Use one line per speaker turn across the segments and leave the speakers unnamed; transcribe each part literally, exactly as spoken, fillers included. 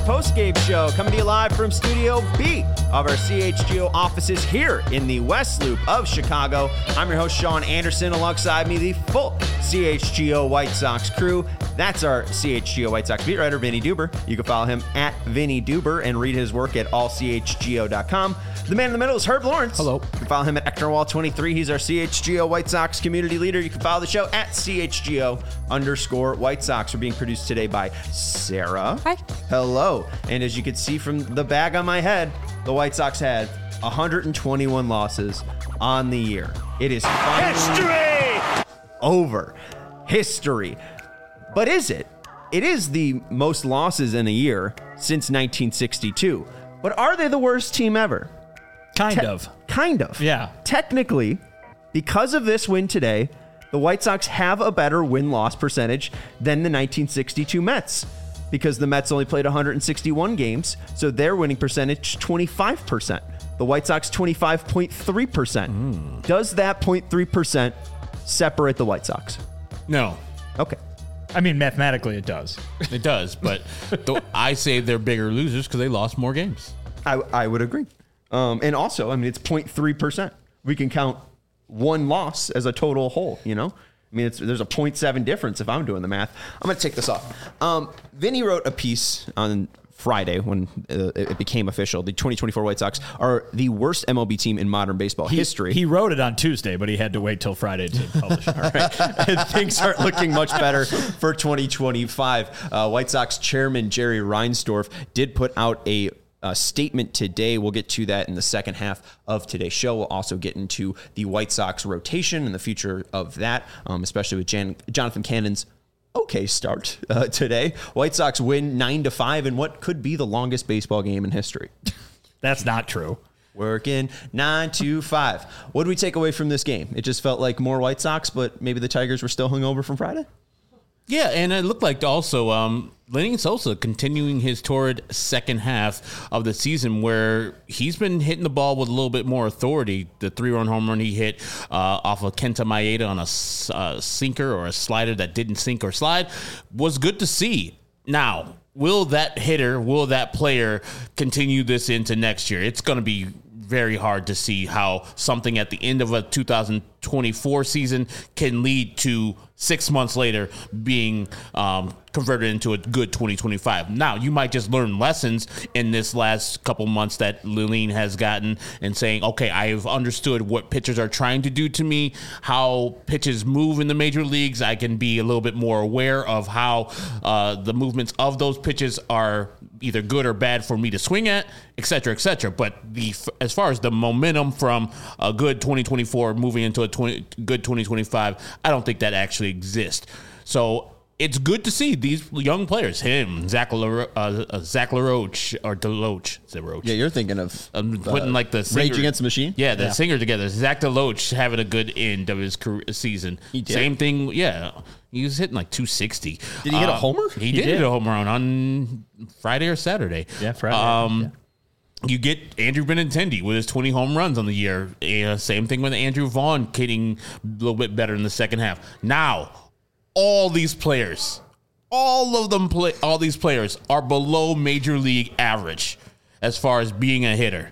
post-game show, coming to you live from Studio B of our C H G O offices here in the West Loop of Chicago. I'm your host, Sean Anderson. Alongside me, the full C H G O White Sox crew. That's our C H G O White Sox beat writer, Vinny Duber. You can follow him at Vinny Duber and read his work at all c h g o dot com. The man in the middle is Herb Lawrence.
Hello.
You can follow him at Ectorwall twenty-three. He's our C H G O White Sox community leader. You can follow the show at C H G O underscore White Sox. We're being produced today by Sarah.
Hi.
Hello. And as you can see from the bag on my head, the White Sox had one hundred twenty-one losses on the year. It is history over. History. But is it? It is the most losses in a year since nineteen sixty-two. But are they the worst team ever?
Kind
Te-
of.
Kind of.
Yeah.
Technically, because of this win today, the White Sox have a better win-loss percentage than the nineteen sixty-two Mets, because the Mets only played one hundred sixty-one games, so their winning percentage, twenty-five percent. The White Sox, twenty-five point three percent. Mm. Does that zero point three percent separate the White Sox?
No.
Okay.
I mean, mathematically it does.
It does, but th- I say they're bigger losers because they lost more games.
I, I would agree. Um, and also, I mean, it's zero point three percent. We can count one loss as a total whole, you know? I mean, it's, there's a zero point seven difference if I'm doing the math. I'm going to take this off. Um, Vinny wrote a piece on Friday when uh, it became official. The twenty twenty-four White Sox are the worst M L B team in modern baseball
he,
history.
He wrote it on Tuesday, but he had to wait till Friday to publish it.
All right. And things aren't looking much better for twenty twenty-five. Uh, White Sox chairman Jerry Reinsdorf did put out a Uh, statement today. We'll get to that in the second half of today's show. We'll also get into the White Sox rotation and the future of that, um, especially with Jan- Jonathan Cannon's okay start uh, today. White Sox win nine to five in what could be the longest baseball game in history.
That's not true.
Working nine to five. What did we take away from this game? It just felt like more White Sox, but maybe the Tigers were still hungover from Friday?
Yeah, and it looked like also um, Lenny Sosa continuing his torrid second half of the season where he's been hitting the ball with a little bit more authority. The three-run home run he hit uh, off of Kenta Maeda on a uh, sinker or a slider that didn't sink or slide was good to see. Now, will that hitter, will that player continue this into next year? It's going to be very hard to see how something at the end of a two thousand twenty-four season can lead to six months later being um, converted into a good twenty twenty-five. Now, you might just learn lessons in this last couple months that Lilleen has gotten and saying, okay, I've understood what pitchers are trying to do to me, how pitches move in the major leagues. I can be a little bit more aware of how uh, the movements of those pitches are either good or bad for me to swing at, et cetera, et cetera. But the as far as the momentum from a good twenty twenty-four moving into a twenty, good twenty twenty-five, I don't think that actually exists. So it's good to see these young players, him, Zach, LaRo- uh, Zach LaRoche, or DeLoach. DeLoach.
Yeah, you're thinking of
I'm putting like the singer,
Rage Against the Machine?
Yeah, the
yeah.
singer together. Zach DeLoach having a good end of his career, season.
He did.
Same thing, yeah. He was hitting like two sixty.
Did he hit
uh,
a homer?
He,
He
did,
did.
hit a home run on Friday or Saturday.
Yeah, Friday.
Um,
yeah.
You get Andrew Benintendi with his twenty home runs on the year. Uh, same thing with Andrew Vaughn hitting a little bit better in the second half. Now, all these players, all of them, play, all these players are below major league average as far as being a hitter.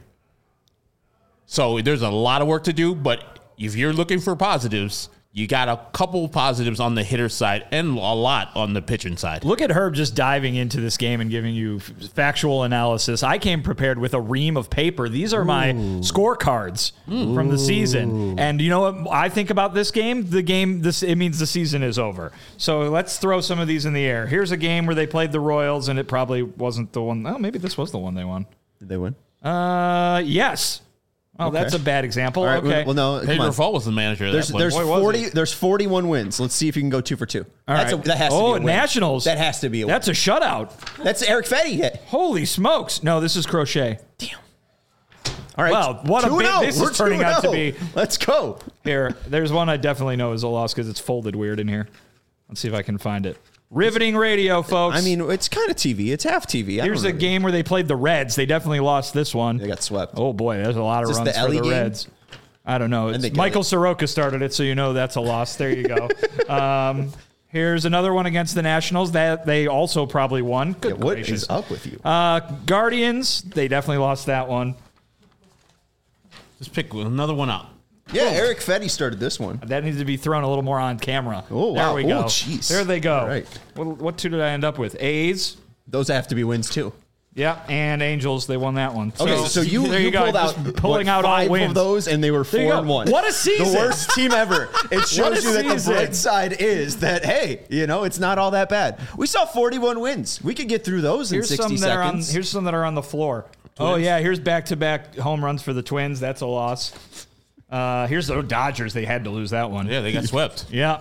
So there's a lot of work to do, but if you're looking for positives, you got a couple positives on the hitter side and a lot on the pitching side.
Look at Herb just diving into this game and giving you f- factual analysis. I came prepared with a ream of paper. These are my Ooh. scorecards mm. from the season. And you know what I think about this game? The game, this it means the season is over. So let's throw some of these in the air. Here's a game where they played the Royals, and it probably wasn't the one. Oh, maybe this was the one they won.
Did they win?
Uh, yes. Oh, okay. That's a bad example.
All right,
okay.
Well, no,
Pedro Fall was the manager of
there's,
that
there's
one.
forty. There's forty-one wins. Let's see if you can go two for two.
All
That's
right.
a, that has
oh,
to be a win.
Nationals.
That has to be a win.
That's a shutout.
That's Eric Fetty hit.
Holy smokes. No, this is Crochet.
Damn. All right.
Well, what a bit this
We're
is turning out to be.
Let's go.
Here, there's one I definitely know is a loss because it's folded weird in here. Let's see if I can find it. Riveting radio, folks.
I mean, it's kind of T V. It's half T V. I
Here's a
really...
game where they played the Reds. They definitely lost this one.
They got swept.
Oh, boy. There's a lot of
Is
runs
the
for
Ellie
the
game?
Reds. I don't know. It's Michael Soroka started it, so you know that's a loss. There you go. um, Here's another one against the Nationals that they also probably won. Good
Yeah, what
gracious.
is up with you?
Uh, Guardians, they definitely lost that one.
Just pick another one up.
Yeah, Eric Fetty started this one.
That needs to be thrown a little more on camera.
Oh,
there
wow.
we go.
Oh, jeez.
There they go.
All right.
What, what two did I end up with? A's.
Those have to be wins too.
Yeah, and Angels, they won that one.
Okay, so, so you,
there
you,
you go.
pulled out
Just pulling
what,
out
five
all wins
of those, and they were
There you
four
go.
and one.
What a season!
The worst team ever. It shows
a
you that the
season.
bright side is that hey, you know, it's not all that bad. We saw forty-one wins. We could get through those
Here's
in sixty
some that are on.
seconds.
Here's some that are on the floor. Oh yeah, here's back-to-back home runs for the Twins. That's a loss. Uh, here's the Dodgers. They had to lose that one.
Yeah, they got swept.
Yeah.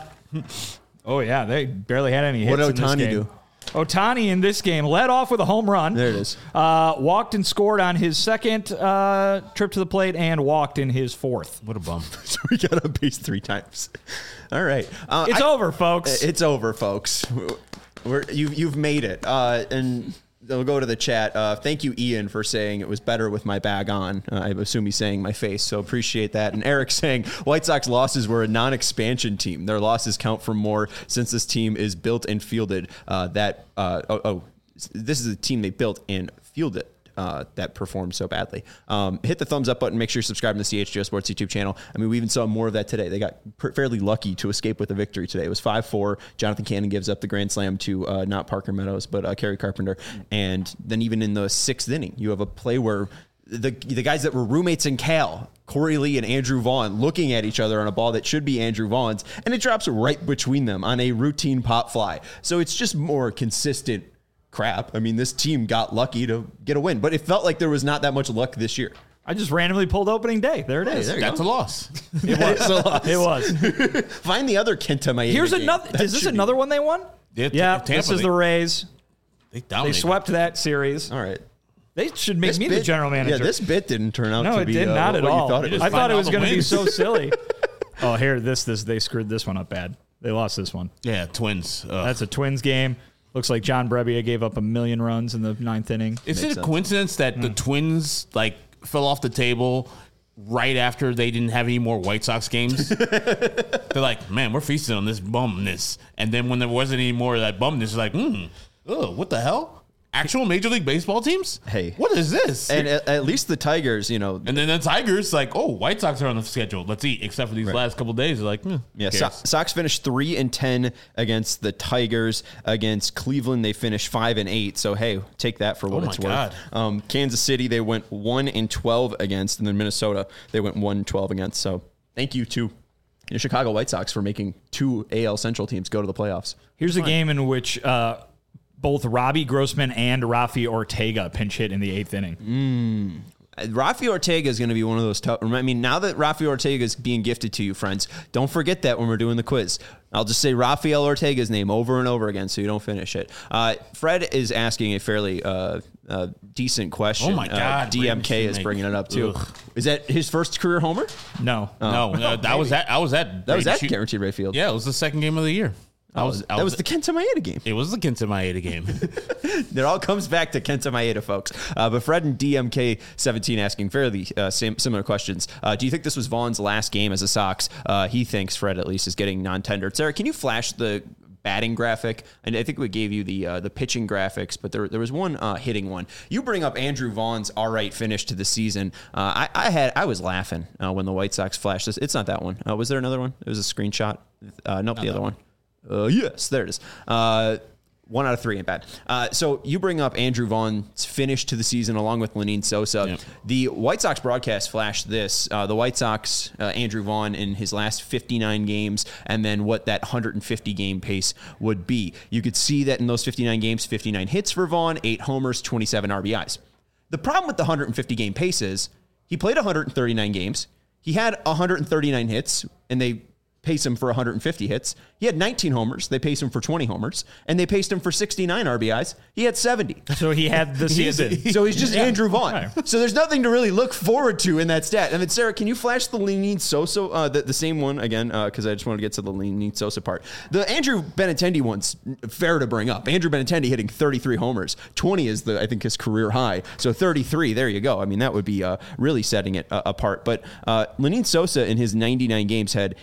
Oh yeah, they barely had any hits.
What
in this
Ohtani
game.
do?
Ohtani in this game led off with a home run.
There it is.
Uh, walked and scored on his second uh, trip to the plate, and walked in his fourth.
What a bum.
So we got on base three times. All right, uh,
It's
I-
over, folks.
It's over, folks. We're, you, you've made it. Uh, and we'll go to the chat. Uh, thank you, Ian, for saying it was better with my bag on. Uh, I assume he's saying my face, so appreciate that. And Eric saying White Sox losses were a non-expansion team. Their losses count for more since this team is built and fielded. Uh, that uh, oh, oh, this is a team they built and fielded. Uh, that performed so badly. Um, hit the thumbs up button. Make sure you subscribe to the C H G O Sports YouTube channel. I mean, we even saw more of that today. They got per- fairly lucky to escape with a victory today. It was five four. Jonathan Cannon gives up the grand slam to uh, not Parker Meadows, but uh, Kerry Carpenter. And then even in the sixth inning, you have a play where the the guys that were roommates in Cal, Corey Lee and Andrew Vaughn, looking at each other on a ball that should be Andrew Vaughn's, and it drops right between them on a routine pop fly. So it's just more consistent crap. I mean, this team got lucky to get a win, but it felt like there was not that much luck this year.
I just randomly pulled opening day. There it is.
there you
That's
go.
a loss.
It was. It was.
Find the other Kenta Maeda
Here's
game.
another.
That
Is this
should be-
another one they won?
Yeah,
Yeah.
Tampa,
This is
they-
the Rays.
They,
They
dominated.
swept that series.
All right.
They should make
This
me
bit-
the general manager.
Yeah, this bit didn't turn out
no,
to
it
be
did
uh,
not at
what
all.
you thought it
You
was.
I
just
thought
find
it
all
was
the
going to be
wins.
so silly. Oh, here, this, this, they screwed this one up bad. They lost this one.
Yeah, Twins. Ugh.
That's a Twins game. Looks like John Brebbia gave up a million runs in the ninth inning.
Is
Makes
it a
sense.
coincidence that the Twins like fell off the table right after they didn't have any more White Sox games? They're like, man, we're feasting on this bumness. And then when there wasn't any more of that bumness, it's like, hmm, oh, what the hell? Actual Major League Baseball teams?
Hey.
What is this?
And at, at least the Tigers, you know,
And then the Tigers, like, oh, White Sox are on the schedule. Let's eat. Except for these last couple days, they're like, hmm,
yeah,
who
so-
cares?
Sox finished three and ten against the Tigers. Against Cleveland, they finished five and eight. So hey, take that for what
Oh,
it's
my
worth.
God.
Um, Kansas City, they went one and twelve against, and then Minnesota, they went one and twelve against. So thank you to the Chicago White Sox for making two A L Central teams go to the playoffs.
Here's a game in which uh, both Robbie Grossman and Rafi Ortega pinch hit in the eighth inning.
Rafi Ortega is going to be one of those tough. I mean, now that Rafi Ortega is being gifted to you, friends, don't forget that when we're doing the quiz. I'll just say Rafael Ortega's name over and over again so you don't finish it. Uh, Fred is asking a fairly uh, uh, decent question.
Oh, my God.
Uh, D M K
Brandon
is
Snake.
bringing it up, too.
Ugh.
Is that his first career homer?
No.
No, uh, that was that. I was at.
That was
Brady
at
Shoot-
Guaranteed Rate Field.
Yeah, it was the second game of the year. I was. I
that was the Kenta Maeda game.
It was the Kenta Maeda game.
It all comes back to Kenta Maeda, folks. Uh, but Fred and D M K seventeen asking fairly uh, same, similar questions. Uh, do you think this was Vaughn's last game as a Sox? Uh, he thinks, Fred at least, is getting non-tendered. Sarah, can you flash the batting graphic? And I think we gave you the uh, the pitching graphics, but there there was one uh, hitting one. You bring up Andrew Vaughn's all right finish to the season. Uh, I, I had I was laughing uh, when the White Sox flashed this. It's not that one. Uh, was there another one? It was a screenshot. Uh, nope, the other one. Uh, yes, there it is. Uh, one out of three ain't bad. Uh, so you bring up Andrew Vaughn's finish to the season along with Lenine Sosa.
Yep.
The White Sox broadcast flashed this. Uh, the White Sox, uh, Andrew Vaughn in his last fifty-nine games, and then what that one hundred fifty game pace would be. You could see that in those fifty-nine games, fifty-nine hits for Vaughn, eight homers, twenty-seven R B Is. The problem with the one hundred fifty game pace is he played one hundred thirty-nine games. He had one hundred thirty-nine hits, and they pace him for one hundred fifty hits. He had nineteen homers. They paced him for twenty homers, and they paced him for sixty-nine R B Is. He had seventy.
So he had the
He is-
season.
So he's just Andrew Vaughn.
Right.
So there's nothing to really look forward to in that stat. I mean, Sarah, can you flash the Lenine Sosa, uh, the, the same one again? Because I just want to get to the Lenine Sosa part. The Andrew Benintendi one's fair to bring up. Andrew Benintendi hitting thirty-three homers. twenty is the I think his career high. So thirty-three, there you go. I mean, that would be uh, really setting it uh, apart. But uh, Lenine Sosa in his ninety-nine games had eight homers.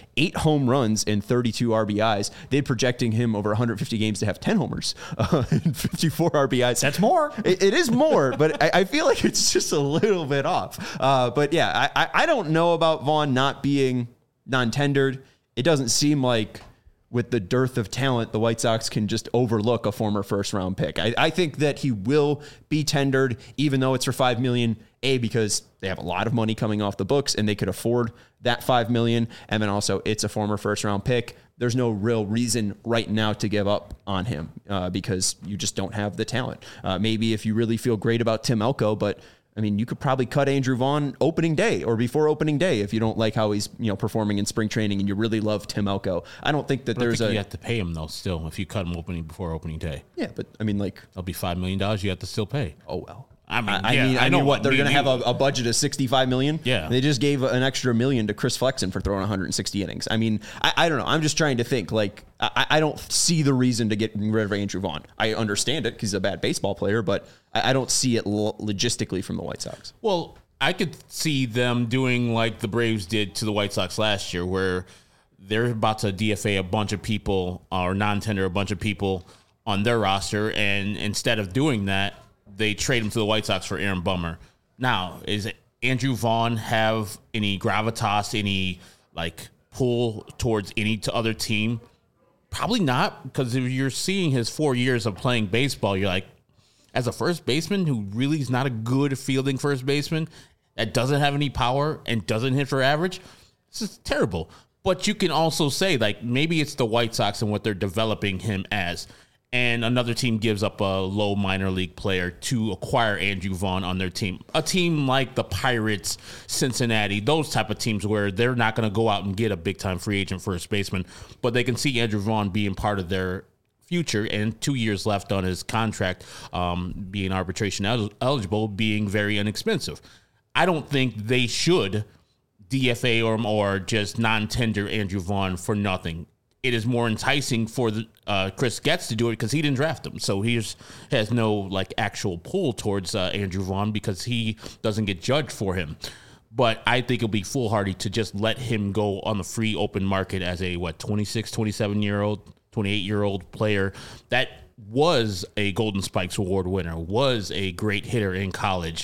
home runs and thirty-two R B Is. They're projecting him over one hundred fifty games to have ten homers uh, and fifty-four R B Is.
That's more.
It, it is more, but I, I feel like it's just a little bit off. Uh, but yeah, I, I, I don't know about Vaughn not being non-tendered. It doesn't seem like with the dearth of talent, the White Sox can just overlook a former first-round pick. I, I think that he will be tendered, even though it's for five million dollars, A, because they have a lot of money coming off the books and they could afford that five million dollars, and then also it's a former first-round pick. There's no real reason right now to give up on him uh, because you just don't have the talent. Uh, maybe if you really feel great about Tim Elko, but I mean, you could probably cut Andrew Vaughn opening day or before opening day if you don't like how he's, you know, performing in spring training and you really love Tim Elko. I don't think that
but
there's
think
a.
You have to pay him though. Still, if you cut him opening before opening day.
Yeah, but I mean, like,
that'll be five million dollars. You have to still pay.
Oh well.
I mean,
I,
yeah,
I mean, I,
I
know
know
what they're
me
going to
and
have
you-
a, a budget of sixty-five million.
Yeah.
They just gave an extra million to Chris Flexen for throwing one hundred sixty innings. I mean, I, I don't know. I'm just trying to think. Like, I, I don't see the reason to get rid of Andrew Vaughn. I understand it because he's a bad baseball player, but I, I don't see it lo- logistically from the White Sox.
Well, I could see them doing like the Braves did to the White Sox last year, where they're about to D F A a bunch of people or non-tender a bunch of people on their roster, and instead of doing that, they trade him to the White Sox for Aaron Bummer. Now, is Andrew Vaughn have any gravitas, any like pull towards any to other team? Probably not, because if you're seeing his four years of playing baseball, you're like, as a first baseman who really is not a good fielding first baseman, that doesn't have any power and doesn't hit for average, this is terrible. But you can also say, like, maybe it's the White Sox and what they're developing him as. And another team gives up a low minor league player to acquire Andrew Vaughn on their team. A team like the Pirates, Cincinnati, those type of teams where they're not going to go out and get a big-time free agent first baseman, but they can see Andrew Vaughn being part of their future, and two years left on his contract, um, being arbitration el- eligible, being very inexpensive. I don't think they should D F A or, or just non-tender Andrew Vaughn for nothing. It is more enticing for the, uh, Chris Getz to do it because he didn't draft him. So he just has no like actual pull towards uh, Andrew Vaughn because he doesn't get judged for him. But I think it'll be foolhardy to just let him go on the free open market as a, what, twenty-six, twenty-seven-year-old, twenty-eight-year-old player that was a Golden Spikes Award winner, was a great hitter in college,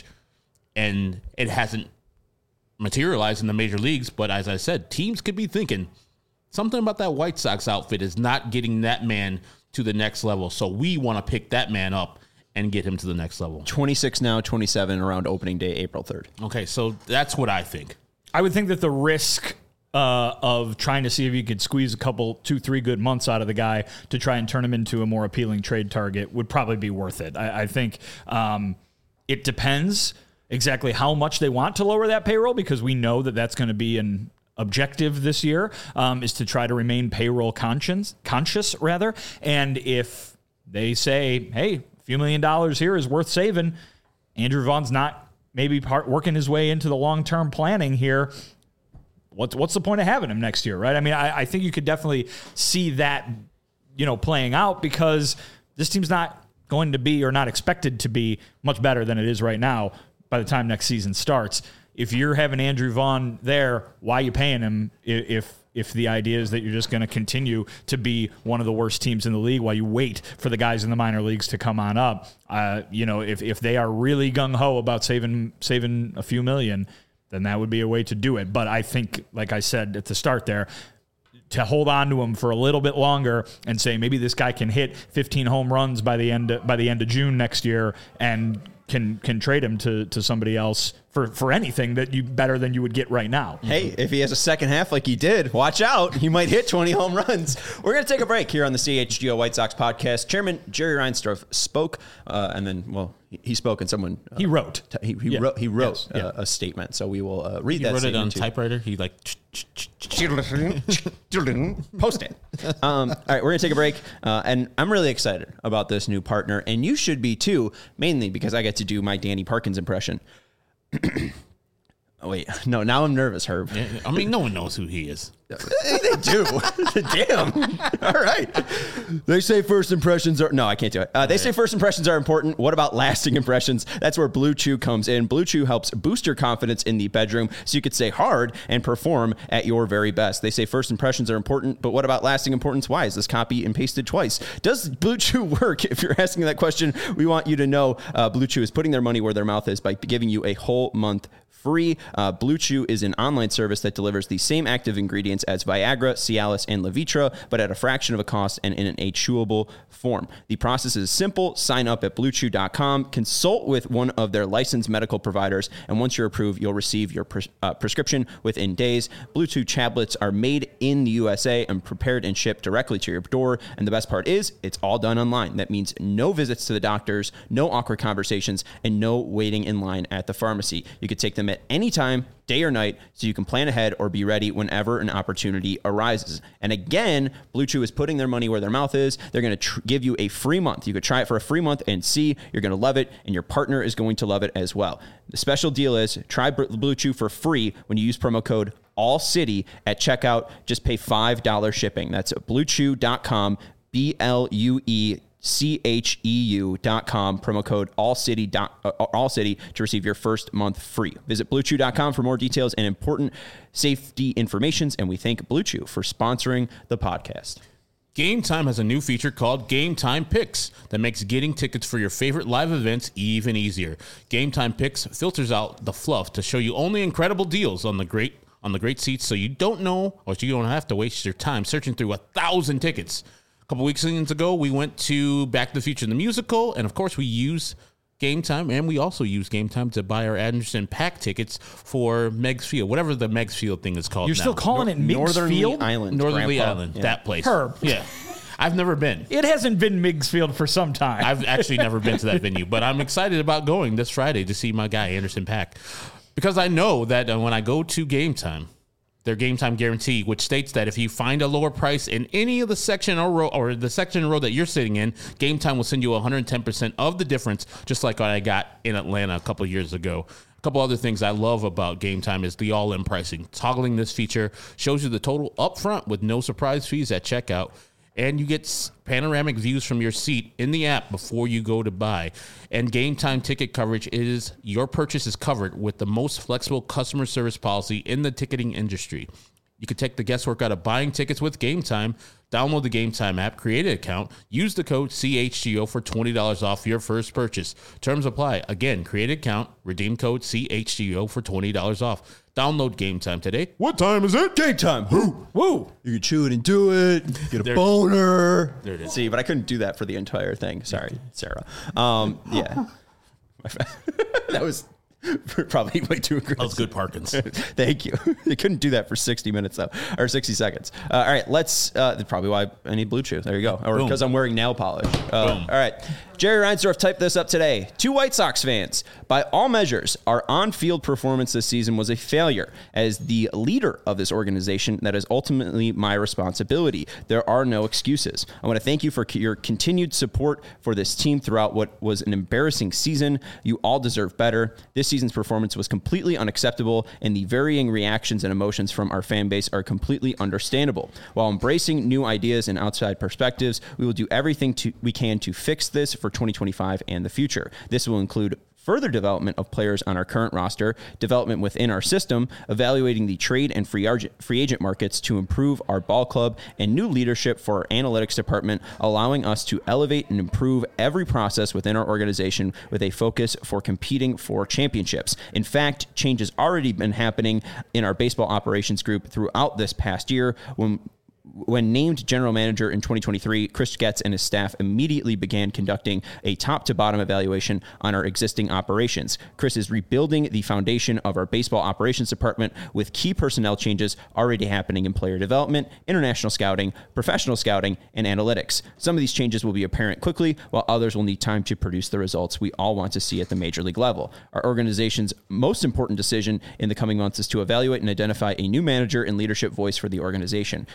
and it hasn't materialized in the major leagues. But as I said, teams could be thinking, something about that White Sox outfit is not getting that man to the next level. So we want to pick that man up and get him to the next level.
twenty-six now, twenty-seven around opening day, April third.
Okay, so that's what I think.
I would think that the risk uh, of trying to see if you could squeeze a couple, two, three good months out of the guy to try and turn him into a more appealing trade target would probably be worth it. I, I think um, it depends exactly how much they want to lower that payroll, because we know that that's going to be an objective this year, um, is to try to remain payroll conscious, conscious rather. And if they say, hey, a few million dollars here is worth saving, Andrew Vaughn's not maybe part working his way into the long-term planning here, what's what's the point of having him next year, right? I mean, I, I think you could definitely see that, you know, playing out, because this team's not going to be, or not expected to be, much better than it is right now by the time next season starts. If you're having Andrew Vaughn there, why are you paying him if if the idea is that you're just going to continue to be one of the worst teams in the league while you wait for the guys in the minor leagues to come on up? Uh, you know, if if they are really gung-ho about saving saving a few million, then that would be a way to do it. But I think, like I said at the start there, to hold on to him for a little bit longer and say maybe this guy can hit fifteen home runs by the end of, by the end of June next year, and can can trade him to to somebody else for, for anything that you better than you would get right now.
Hey, if he has a second half like he did, watch out. He might hit twenty home runs. We're going to take a break here on the C H G O White Sox podcast. Chairman Jerry Reinsdorf spoke, uh, and then, well, he, he spoke and someone... Uh,
he wrote.
T- he, he
Yeah.
wrote He wrote
Yes.
uh,
Yeah.
a statement, so we will uh, read
He
that
wrote it on
statement to-
typewriter. He like...
Post it. Um, all right, we're going to take a break, uh, and I'm really excited about this new partner, and you should be too, mainly because I get to do my Danny Parkins impression. wait, no, now I'm nervous, Herb.
Yeah, I mean, no one knows who he is.
They do. Damn. All right. They say first impressions are... No, I can't do it. Uh, they say first impressions are important. What about lasting impressions? That's where Blue Chew comes in. Blue Chew helps boost your confidence in the bedroom so you could stay hard and perform at your very best. They say first impressions are important, but what about lasting importance? Why is this copy and pasted twice? Does Blue Chew work? If you're asking that question, we want you to know uh, Blue Chew is putting their money where their mouth is by giving you a whole month free. Uh, Blue Chew is an online service that delivers the same active ingredients as Viagra, Cialis, and Levitra, but at a fraction of a cost and in a chewable form. The process is simple. Sign up at blue chew dot com, consult with one of their licensed medical providers, and once you're approved, you'll receive your pres- uh, prescription within days. Blue Chew tablets are made in the U S A and prepared and shipped directly to your door, and the best part is it's all done online. That means no visits to the doctors, no awkward conversations, and no waiting in line at the pharmacy. You could take them at any time, day or night, so you can plan ahead or be ready whenever an opportunity arises. And again, Blue Chew is putting their money where their mouth is. They're going to tr- give you a free month. You could try it for a free month and see. You're going to love it, and your partner is going to love it as well. The special deal is try Blue Chew for free when you use promo code ALLCITY at checkout. Just pay five dollars shipping. That's blue chew dot com, B L U E C H E U dot com, promo code ALLCITY, uh, ALLCITY to receive your first month free. Visit blue chew dot com for more details and important safety informations, and we thank Blue Chew for sponsoring the podcast.
Game Time has a new feature called Game Time Picks that makes getting tickets for your favorite live events even easier. Game Time Picks filters out the fluff to show you only incredible deals on the great on the great seats, so you don't know or you don't have to waste your time searching through a thousand tickets. A couple weeks ago, we went to Back to the Future, the musical, and of course, we use Game Time, and we also use Game Time to buy our Anderson Paak tickets for Meigs Field, whatever the Meigs Field thing is called.
You're
now.
still calling it Meigs
Northern
Field?
Island.
Northern Lee
Grandpa.
Island,
Yeah.
that place.
Herb.
Yeah. I've never been.
It hasn't been Meigs Field for some time.
I've actually never been to that venue, but I'm excited about going this Friday to see my guy, Anderson Paak, because I know that when I go to Game Time, their Game Time guarantee, which states that if you find a lower price in any of the section or row or the section or row that you're sitting in, Game Time will send you one hundred ten percent of the difference, just like what I got in Atlanta a couple of years ago. A couple other things I love about Game Time is the all-in pricing. Toggling this feature shows you the total upfront with no surprise fees at checkout. And you get panoramic views from your seat in the app before you go to buy. And Game Time ticket coverage is your purchase is covered with the most flexible customer service policy in the ticketing industry. You can take the guesswork out of buying tickets with Game Time. Download the Game Time app, create an account, use the code C H G O for twenty dollars off your first purchase. Terms apply. Again, create an account, redeem code C H G O for twenty dollars off. Download Game Time today.
What time is it? Game time. Woo. Woo. You can chew it and do it. Get a
There-
boner.
There it is.
See, but I couldn't do that for the entire thing. Sorry, Sarah. Um, yeah. That was probably way too aggressive.
That was good Parkins.
Thank you. They couldn't do that for sixty minutes though, or sixty seconds. Uh, all right, let's. Uh, that's probably why I need Blue Chew. There you go. Or because I'm wearing nail polish. Uh,
Boom.
all right. Jerry Reinsdorf typed this up today. To White Sox fans, by all measures, our on-field performance this season was a failure. As the leader of this organization, that is ultimately my responsibility. There are no excuses. I want to thank you for your continued support for this team throughout what was an embarrassing season. You all deserve better. This season's performance was completely unacceptable, and the varying reactions and emotions from our fan base are completely understandable. While embracing new ideas and outside perspectives, we will do everything to, we can to fix this for twenty twenty-five and the future. This will include further development of players on our current roster, development within our system, evaluating the trade and free free agent markets to improve our ball club, and new leadership for our analytics department, allowing us to elevate and improve every process within our organization with a focus for competing for championships. In fact, change has already been happening in our baseball operations group throughout this past year. When When named general manager in twenty twenty-three, Chris Getz and his staff immediately began conducting a top-to-bottom evaluation on our existing operations. Chris is rebuilding the foundation of our baseball operations department with key personnel changes already happening in player development, international scouting, professional scouting, and analytics. Some of these changes will be apparent quickly, while others will need time to produce the results we all want to see at the major league level. Our organization's most important decision in the coming months is to evaluate and identify a new manager and leadership voice for the organization. Chris is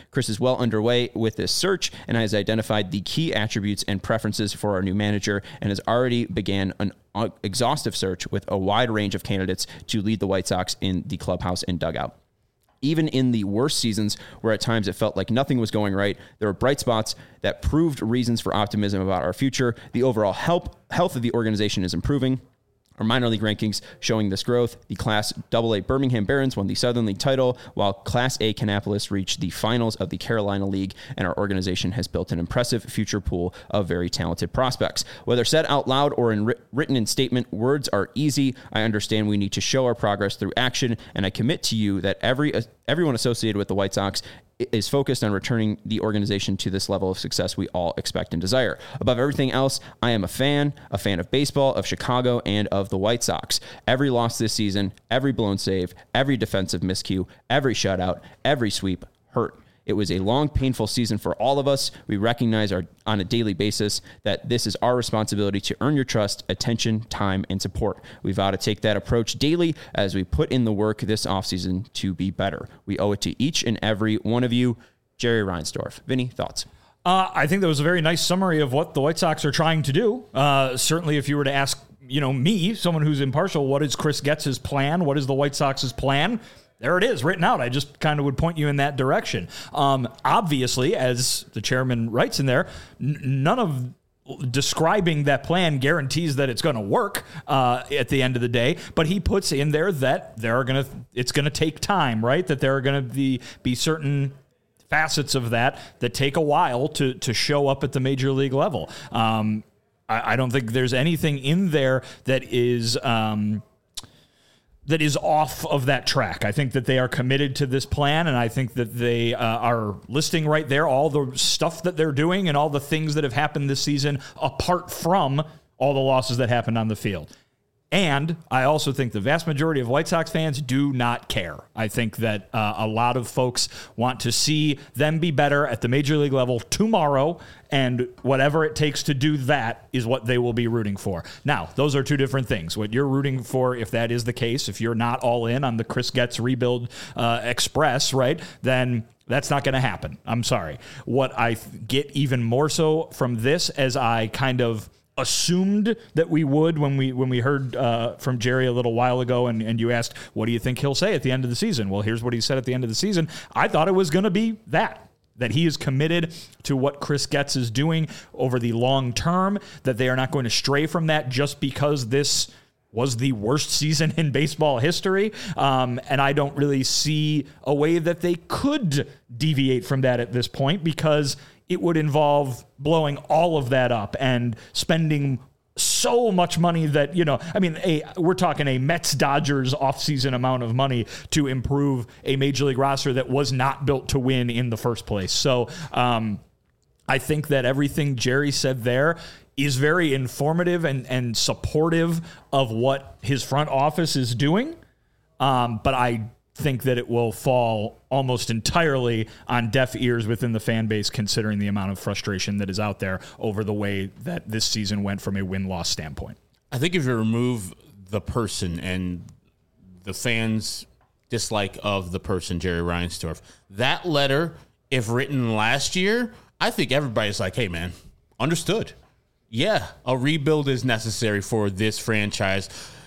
well underway with this search and has identified the key attributes and preferences for our new manager and has already began an exhaustive search with a wide range of candidates to lead the White Sox in the clubhouse and dugout. Even in the worst seasons, where at times it felt like nothing was going right, there were bright spots that proved reasons for optimism about our future. The overall health, health of the organization is improving. Our minor league rankings showing this growth. The Class double A Birmingham Barons won the Southern League title, while Class A Kannapolis reached the finals of the Carolina League, and our organization has built an impressive future pool of very talented prospects. Whether said out loud or in written in statement, words are easy. I understand we need to show our progress through action, and I commit to you that every uh, everyone associated with the White Sox is focused on returning the organization to this level of success we all expect and desire. Above everything else, I am a fan, a fan of baseball, of Chicago, and of the White Sox. Every loss this season, every blown save, every defensive miscue, every shutout, every sweep hurt. It was a long, painful season for all of us. We recognize our, on a daily basis that this is our responsibility to earn your trust, attention, time, and support. We vow to take that approach daily as we put in the work this offseason to be better. We owe it to each and every one of you. Jerry Reinsdorf. Vinny, thoughts?
Uh, I think that was a very nice summary of what the White Sox are trying to do. Uh, certainly, if you were to ask, you know, me, someone who's impartial, what is Chris Getz's plan? What is the White Sox's plan? There it is, written out. I just kind of would point you in that direction. Um, obviously, as the chairman writes in there, n- none of describing that plan guarantees that it's going to work uh, at the end of the day. But he puts in there that there are going to, it's going to take time, right? That there are going to be be certain facets of that that take a while to to show up at the major league level. Um, I, I don't think there's anything in there that is. Um, that is off of that track. I think that they are committed to this plan, and I think that they uh, are listing right there all the stuff that they're doing and all the things that have happened this season apart from all the losses that happened on the field. And I also think the vast majority of White Sox fans do not care. I think that uh, a lot of folks want to see them be better at the major league level tomorrow, and whatever it takes to do that is what they will be rooting for. Now, those are two different things. What you're rooting for, if that is the case, if you're not all in on the Chris Getz rebuild uh, express, right, then that's not going to happen. I'm sorry. What I get even more so from this, as I kind of assumed that we would when we when we heard uh, from Jerry a little while ago, and, and you asked, what do you think he'll say at the end of the season? Well, here's what he said at the end of the season. I thought it was going to be that, that he is committed to what Chris Getz is doing over the long term, that they are not going to stray from that just because this was the worst season in baseball history. Um, and I don't really see a way that they could deviate from that at this point, because it would involve blowing all of that up and spending so much money that, you know, I mean, a, we're talking a Mets-Dodgers offseason amount of money to improve a major league roster that was not built to win in the first place. So um, I think that everything Jerry said there is very informative and, and supportive of what his front office is doing. Um, but I think that it will fall almost entirely on deaf ears within the fan base, considering the amount of frustration that is out there over the way that this season went from a win-loss standpoint.
I think if you remove the person and the fans' dislike of the person, Jerry Reinsdorf, that letter, if written last year, I think everybody's like, hey, man, understood. Yeah, a rebuild is necessary for this franchise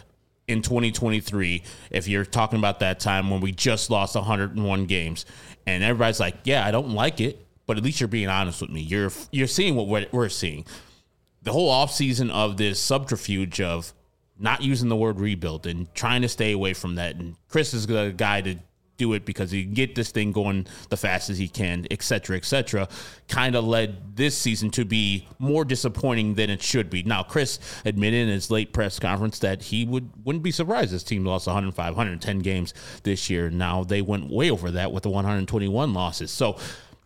in twenty twenty-three, if you're talking about that time when we just lost one hundred one games, and everybody's like, yeah, I don't like it, but at least you're being honest with me. You're you're seeing what we're, we're seeing. The whole offseason of this subterfuge of not using the word rebuild and trying to stay away from that, and Chris is the guy to do it because he can get this thing going the fastest he can, et cetera, et cetera, kind of led this season to be more disappointing than it should be. Now, Chris admitted in his late press conference that he would, wouldn't be surprised his team lost one hundred five, one hundred ten games this year. Now, they went way over that with the one hundred twenty-one losses. So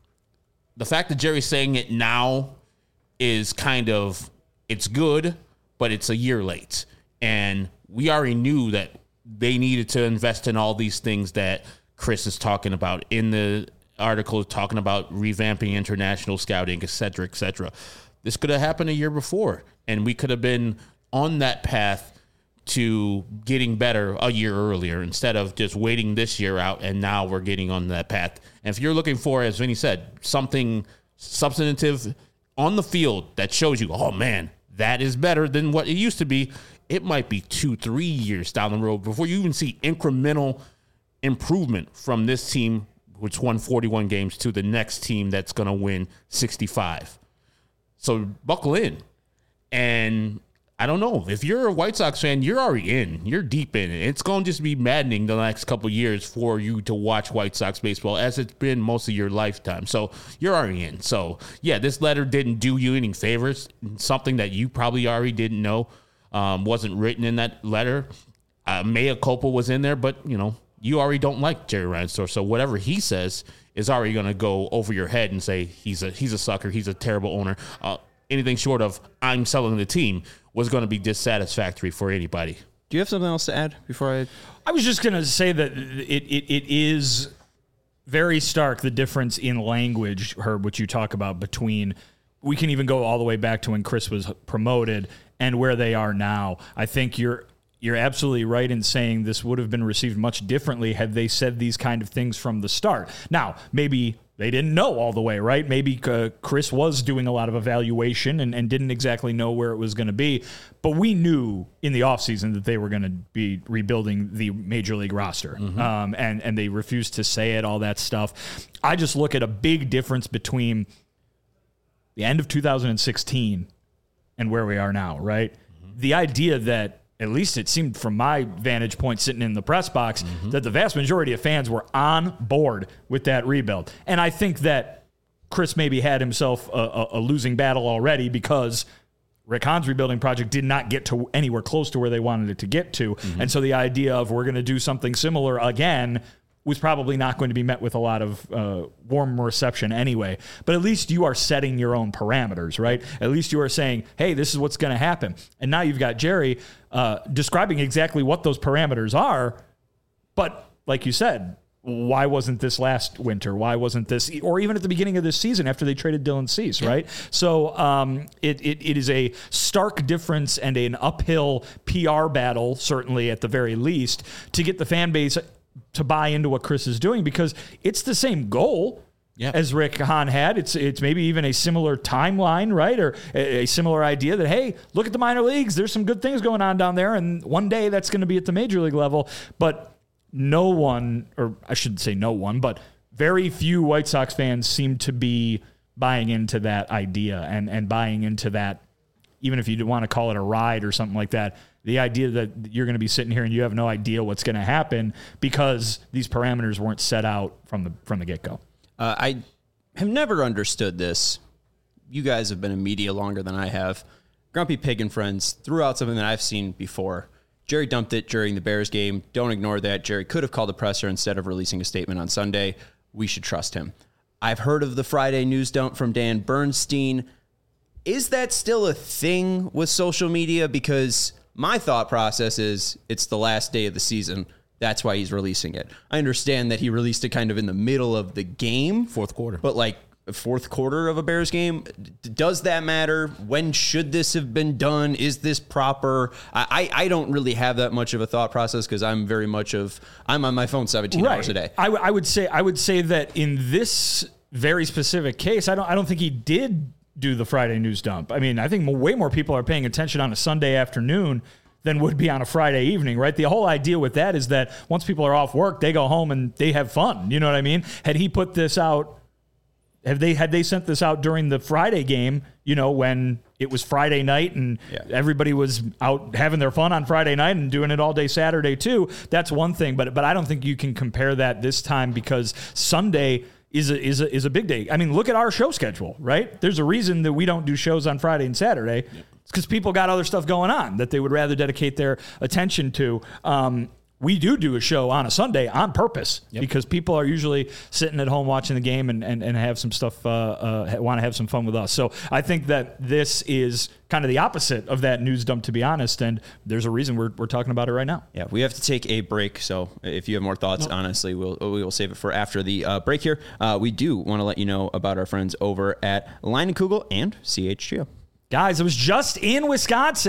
the fact that Jerry's saying it now is kind of, it's good, but it's a year late. And we already knew that they needed to invest in all these things that Chris is talking about in the article, talking about revamping international scouting, et cetera, et cetera. This could have happened a year before, and we could have been on that path to getting better a year earlier instead of just waiting this year out, and now we're getting on that path. And if you're looking for, as Vinny said, something substantive on the field that shows you, oh, man, that is better than what it used to be, it might be two, three years down the road before you even see incremental improvement from this team, which won forty-one games, to the next team that's going to win sixty-five. So buckle in. And I don't know. If you're a White Sox fan, you're already in. You're deep in it. It's going to just be maddening the next couple of years for you to watch White Sox baseball, as it's been most of your lifetime. So you're already in. So, yeah, this letter didn't do you any favors. Something that you probably already didn't know um, wasn't written in that letter. Uh, mea culpa was in there, but, you know, you already don't like Jerry Reinsdorf. So whatever he says is already going to go over your head and say he's a he's a sucker, he's a terrible owner. Uh, anything short of I'm selling the team was going to be dissatisfactory for anybody.
Do you have something else to add before I...
I was just going to say that it, it it is very stark, the difference in language, Herb, which you talk about between, we can even go all the way back to when Chris was promoted and where they are now. I think you're you're absolutely right in saying this would have been received much differently had they said these kind of things from the start. Now, maybe they didn't know all the way, right? Maybe uh, Chris was doing a lot of evaluation and, and didn't exactly know where it was going to be. But we knew in the offseason that they were going to be rebuilding the major league roster. Mm-hmm. Um, and, and they refused to say it, all that stuff. I just look at a big difference between the end of two thousand sixteen and where we are now, right? Mm-hmm. The idea that, at least it seemed from my vantage point sitting in the press box, mm-hmm. that the vast majority of fans were on board with that rebuild. And I think that Chris maybe had himself a, a, a losing battle already because Rick Hahn's rebuilding project did not get to anywhere close to where they wanted it to get to. Mm-hmm. And so the idea of we're going to do something similar again was probably not going to be met with a lot of uh, warm reception anyway. But at least you are setting your own parameters, right? At least you are saying, hey, this is what's going to happen. And now you've got Jerry uh, describing exactly what those parameters are. But like you said, why wasn't this last winter? Why wasn't this, or even at the beginning of this season after they traded Dylan Cease, right? Yeah. So um, it, it it is a stark difference and an uphill P R battle, certainly at the very least, to get the fan base to buy into what Chris is doing, because it's the same goal yep. as Rick Hahn had. It's it's maybe even a similar timeline, right? Or a, a similar idea that, hey, look at the minor leagues. There's some good things going on down there, and one day that's going to be at the major league level. But no one, or I shouldn't say no one, but very few White Sox fans seem to be buying into that idea and, and buying into that, even if you want to call it a ride or something like that, the idea that you're going to be sitting here and you have no idea what's going to happen because these parameters weren't set out from the from the get-go.
Uh, I have never understood this. You guys have been in media longer than I have. Grumpy Pig and Friends threw out something that I've seen before. Jerry dumped it during the Bears game. Don't ignore that. Jerry could have called a presser instead of releasing a statement on Sunday. We should trust him. I've heard of the Friday news dump from Dan Bernstein. Is that still a thing with social media? Because my thought process is it's the last day of the season. That's why he's releasing it. I understand that he released it kind of in the middle of the game.
Fourth quarter.
But like a fourth quarter of a Bears game. Does that matter? When should this have been done? Is this proper? I, I don't really have that much of a thought process because I'm very much of, I'm on my phone seventeen
right.
hours a day.
I, w- I would say, I would say that in this very specific case, I don't, I don't think he did do the Friday news dump. I mean, I think way more people are paying attention on a Sunday afternoon than would be on a Friday evening, right? The whole idea with that is that once people are off work, they go home and they have fun. You know what I mean? Had he put this out, have they had they sent this out during the Friday game, you know, when it was Friday night and yeah. everybody was out having their fun on Friday night and doing it all day Saturday too, that's one thing. But but I don't think you can compare that this time because Sunday is a, is a, is a big day. I mean, look at our show schedule, right? There's a reason that we don't do shows on Friday and Saturday. Yep. It's because people got other stuff going on that they would rather dedicate their attention to. Um, we do do a show on a Sunday on purpose yep. because people are usually sitting at home watching the game and, and, and have some stuff, uh, uh, want to have some fun with us. So I think that this is kind of the opposite of that news dump, to be honest. And there's a reason we're we're talking about it right now.
Yeah, we have to take a break. So if you have more thoughts, nope. honestly, we'll we will save it for after the uh, break here. Uh, we do want to let you know about our friends over at Leinenkugel and C H G O.
Guys, I was just in Wisconsin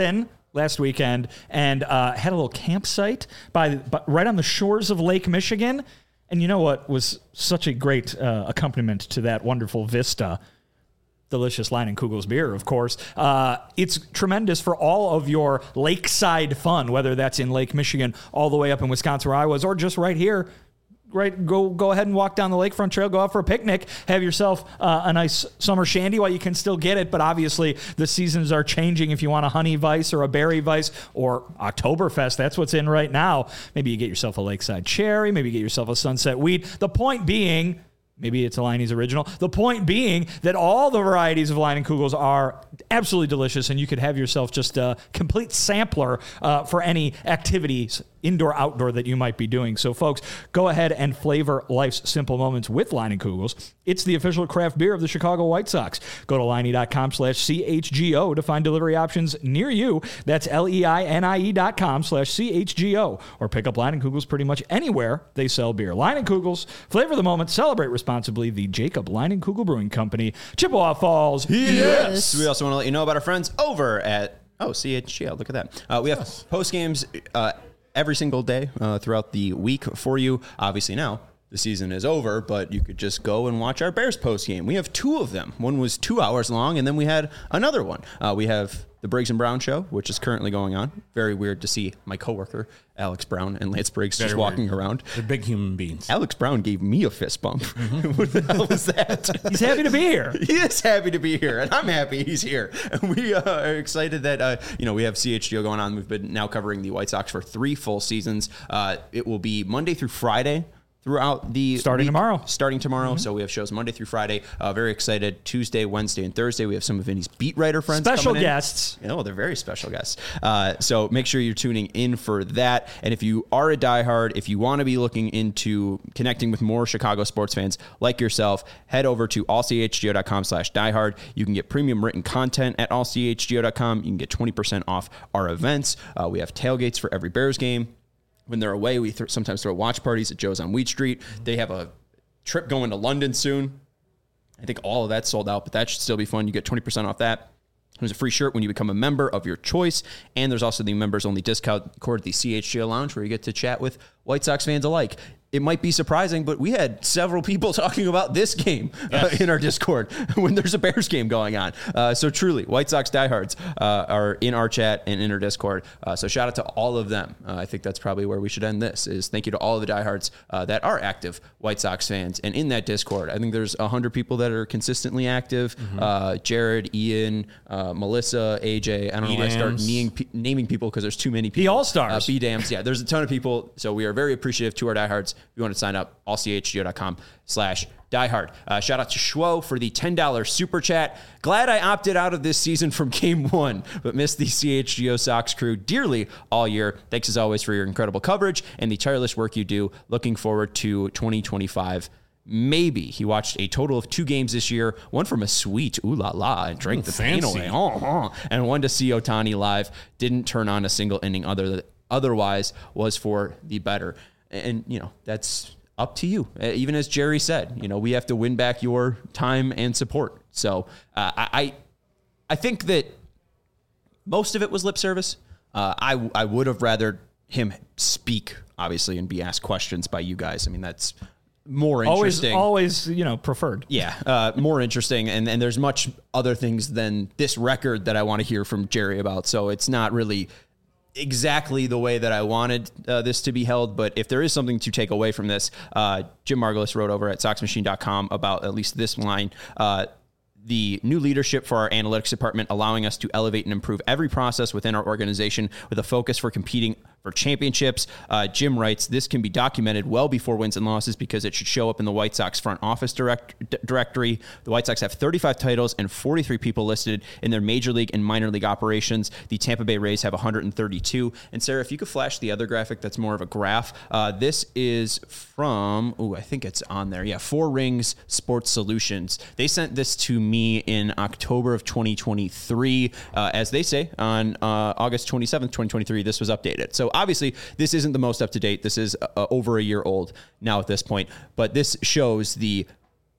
last weekend and uh, had a little campsite by, by right on the shores of Lake Michigan. And you know what was such a great uh, accompaniment to that wonderful vista? Delicious Leinenkugel's beer, of course. Uh, it's tremendous for all of your lakeside fun, whether that's in Lake Michigan, all the way up in Wisconsin where I was, or just right here. Right, go go ahead and walk down the lakefront trail, go out for a picnic, have yourself uh, a nice summer shandy while you can still get it. But obviously, the seasons are changing. If you want a honey vice or a berry vice or Oktoberfest, that's what's in right now. Maybe you get yourself a lakeside cherry. Maybe you get yourself a sunset weed. The point being, maybe it's a Leinie's original. The point being that all the varieties of Leinenkugels are absolutely delicious, and you could have yourself just a complete sampler uh, for any activities, indoor, outdoor, that you might be doing. So, folks, go ahead and flavor life's simple moments with Leinenkugels. It's the official craft beer of the Chicago White Sox. Go to Leinie.com slash CHGO to find delivery options near you. That's L-E-I-N-I-E dot com slash C-H-G-O. Or pick up Leinenkugels pretty much anywhere they sell beer. Leinenkugels, flavor the moment, celebrate responsibly. The Jacob Leinenkugel Brewing Company, Chippewa Falls.
Yes. We also want to let you know about our friends over at, oh, C H G O. Look at that. Uh, we have yes. post games uh, every single day uh, throughout the week for you. Obviously now the season is over, but you could just go and watch our Bears post game. We have two of them. One was two hours long, and then we had another one. Uh, we have the Briggs and Brown show, which is currently going on. Very weird to see my coworker, Alex Brown, and Lance Briggs Very just walking
weird.
around.
They're big human beings.
Alex Brown gave me a fist bump. Mm-hmm. What the hell was that?
He's happy to be here.
He is happy to be here, and I'm happy he's here. And we uh, are excited that, uh, you know, we have C H G O going on. We've been now covering the White Sox for three full seasons. Uh, it will be Monday through Friday throughout the
starting
week,
tomorrow
starting tomorrow. Mm-hmm. So we have shows Monday through Friday. Uh, very excited. Tuesday, Wednesday, and Thursday. We have some of Vinny's beat writer friends.
Special
coming
guests.
In. Oh, they're very special guests. Uh, so make sure you're tuning in for that. And if you are a diehard, if you want to be looking into connecting with more Chicago sports fans like yourself, head over to all c h g o dot com slash diehard. You can get premium written content at all c h g o dot com. You can get twenty percent off our events. Uh, we have tailgates for every Bears game. When they're away, we th- sometimes throw watch parties at Joe's on Wheat Street. They have a trip going to London soon. I think all of that's sold out, but that should still be fun. You get twenty percent off that. There's a free shirt when you become a member of your choice. And there's also the members-only discount code, the C H G O Lounge, where you get to chat with White Sox fans alike. It might be surprising, but we had several people talking about this game yes. uh, in our Discord when there's a Bears game going on. Uh, so truly, White Sox diehards uh, are in our chat and in our Discord. Uh, so shout out to all of them. Uh, I think that's probably where we should end this, is thank you to all of the diehards uh, that are active White Sox fans. And in that Discord, I think there's one hundred people that are consistently active. Mm-hmm. Uh, Jared, Ian, uh, Melissa, A J. I don't know why I start naming, naming people because there's too many people.
The All-Stars.
Uh, B-Dams. Yeah, there's a ton of people. So we are very appreciative to our diehards. If you want to sign up, all c h g o dot com slash diehard. Uh, shout out to Schwo for the ten dollars super chat. Glad I opted out of this season from game one, but missed the C H G O Sox crew dearly all year. Thanks as always for your incredible coverage and the tireless work you do. Looking forward to twenty twenty-five. Maybe. He watched a total of two games this year, one from a suite, ooh la la, and drank ooh, the pain away, oh, oh, and one to see Ohtani live. Didn't turn on a single inning other than, otherwise was for the better. And, you know, that's up to you. Even as Jerry said, you know, we have to win back your time and support. So uh, I I think that most of it was lip service. Uh, I, I would have rather him speak, obviously, and be asked questions by you guys. I mean, that's more interesting.
Always, always, you know, preferred.
Yeah, uh, more interesting. And, and there's much other things than this record that I want to hear from Jerry about. So it's not really exactly the way that I wanted uh, this to be held. But if there is something to take away from this, uh, Jim Margulis wrote over at sox machine dot com about at least this line. Uh, the new leadership for our analytics department, allowing us to elevate and improve every process within our organization with a focus for competing for championships. Uh, Jim writes, this can be documented well before wins and losses because it should show up in the White Sox front office direct, d- directory. The White Sox have thirty-five titles and forty-three people listed in their major league and minor league operations. The Tampa Bay Rays have one hundred thirty-two. And Sarah, if you could flash the other graphic, that's more of a graph. Uh, this is from, oh, I think it's on there. Yeah, Four Rings Sports Solutions. They sent this to me in October of twenty twenty-three. Uh, as they say, on uh, August twenty-seventh, twenty twenty-three, this was updated. So obviously, this isn't the most up-to-date. This is uh, over a year old now at this point. But this shows the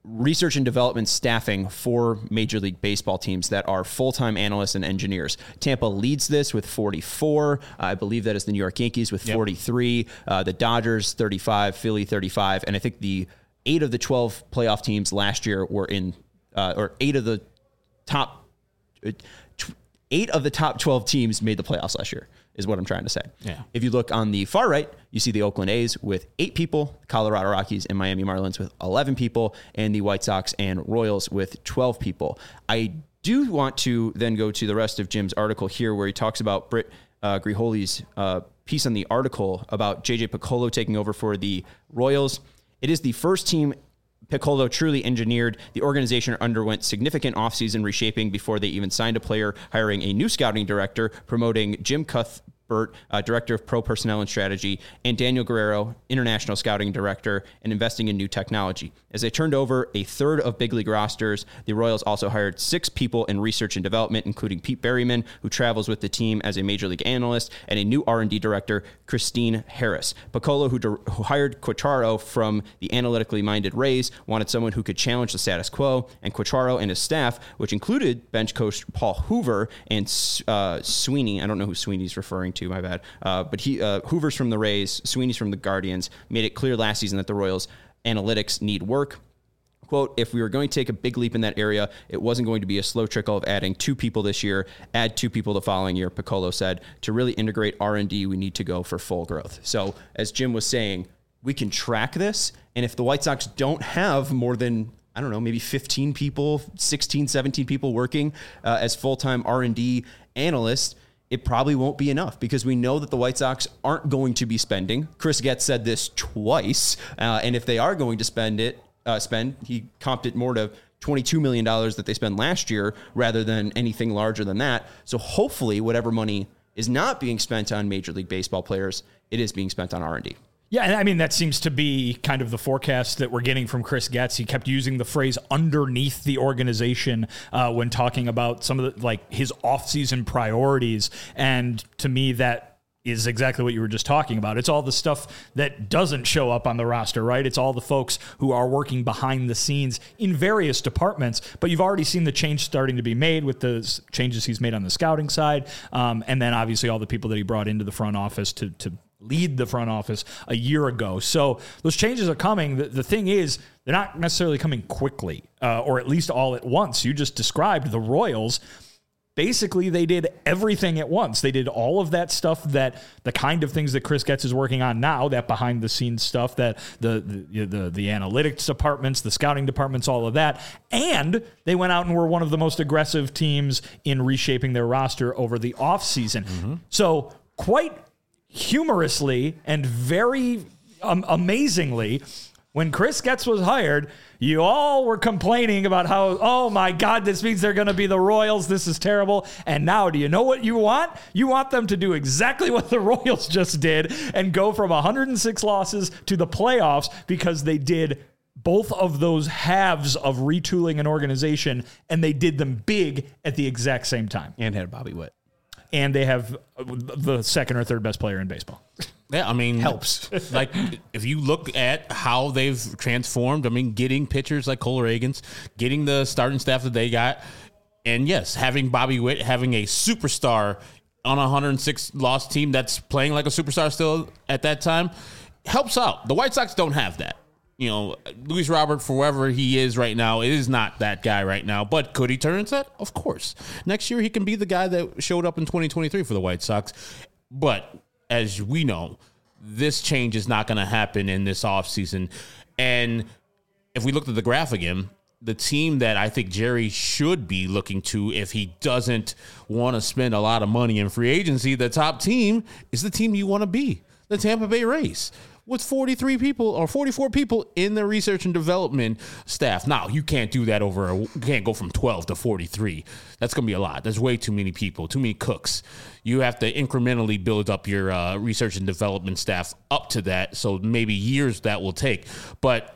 research and development staffing for Major League Baseball teams that are full-time analysts and engineers. Tampa leads this with forty-four. Uh, I believe that is the New York Yankees with yep. forty-three. Uh, the Dodgers, thirty-five. Philly, thirty-five. And I think the eight of the twelve playoff teams last year were in, uh, or eight of the top, uh, tw- eight of the top twelve teams made the playoffs last year, is what I'm trying to say.
Yeah.
If you look on the far right, you see the Oakland A's with eight people, Colorado Rockies and Miami Marlins with eleven people, and the White Sox and Royals with twelve people. I do want to then go to the rest of Jim's article here, where he talks about Britt uh, Griholi's uh, piece on the article about J J Picollo taking over for the Royals. It is the first team Picollo truly engineered. The organization underwent significant offseason reshaping before they even signed a player, hiring a new scouting director, promoting Jim Cuthbert, uh, director of pro personnel and strategy, and Daniel Guerrero, international scouting director, and investing in new technology. As they turned over a third of big league rosters, the Royals also hired six people in research and development, including Pete Berryman, who travels with the team as a major league analyst, and a new R and D director, Christine Harris. Picollo, who, de- who hired Quatraro from the analytically minded Rays, wanted someone who could challenge the status quo, and Quatraro and his staff, which included bench coach Paul Hoover and uh, Sweeney, I don't know who Sweeney's referring to, my bad, uh, but he uh, Hoover's from the Rays, Sweeney's from the Guardians, made it clear last season that the Royals analytics need work. Quote, if we were going to take a big leap in that area, it wasn't going to be a slow trickle of adding two people this year, add two people the following year, Picollo said. To really integrate R and D, we need to go for full growth. So as Jim was saying, we can track this. And if the White Sox don't have more than, I don't know, maybe fifteen people, sixteen, seventeen people working uh, as full-time R and D analysts, it probably won't be enough, because we know that the White Sox aren't going to be spending. Chris Getz said this twice. Uh, and if they are going to spend it, uh, spend, he comped it more to twenty-two million dollars that they spent last year rather than anything larger than that. So hopefully whatever money is not being spent on Major League Baseball players, it is being spent on R and D.
Yeah, and I mean, that seems to be kind of the forecast that we're getting from Chris Getz. He kept using the phrase underneath the organization uh, when talking about some of the, like, his offseason priorities. And to me, that is exactly what you were just talking about. It's all the stuff that doesn't show up on the roster, right? It's all the folks who are working behind the scenes in various departments, but you've already seen the change starting to be made with the changes he's made on the scouting side. Um, and then obviously all the people that he brought into the front office to, to lead the front office a year ago. So those changes are coming. The, the thing is, they're not necessarily coming quickly, uh, or at least all at once. You just described the Royals. Basically, they did everything at once. They did all of that stuff, that the kind of things that Chris Getz is working on now, that behind the scenes stuff, that the the, the the analytics departments, the scouting departments, all of that. And they went out and were one of the most aggressive teams in reshaping their roster over the offseason. Mm-hmm. So quite humorously and very um, amazingly, when Chris Getz was hired, you all were complaining about how, oh my God, this means they're going to be the Royals. This is terrible. And now, do you know what you want? You want them to do exactly what the Royals just did and go from one hundred six losses to the playoffs, because they did both of those halves of retooling an organization, and they did them big at the exact same time.
And had Bobby Witt.
And they have the second or third best player in baseball.
Yeah, I mean,
helps.
Like, if you look at how they've transformed, I mean, getting pitchers like Cole Reagans, getting the starting staff that they got, and yes, having Bobby Witt, having a superstar on a one hundred six loss team that's playing like a superstar still at that time, helps out. The White Sox don't have that. You know, Luis Robert, for wherever he is right now, is not that guy right now. But could he turn into that? Of course. Next year, he can be the guy that showed up in twenty twenty-three for the White Sox. But as we know, this change is not going to happen in this offseason. And if we looked at the graph again, the team that I think Jerry should be looking to, if he doesn't want to spend a lot of money in free agency, the top team is the team you want to be, the Tampa Bay Rays, with forty-three people or forty-four people in the research and development staff. Now, you can't do that over, a, you can't go from twelve to forty-three. That's going to be a lot. There's way too many people, too many cooks. You have to incrementally build up your uh, research and development staff up to that. So maybe years that will take. But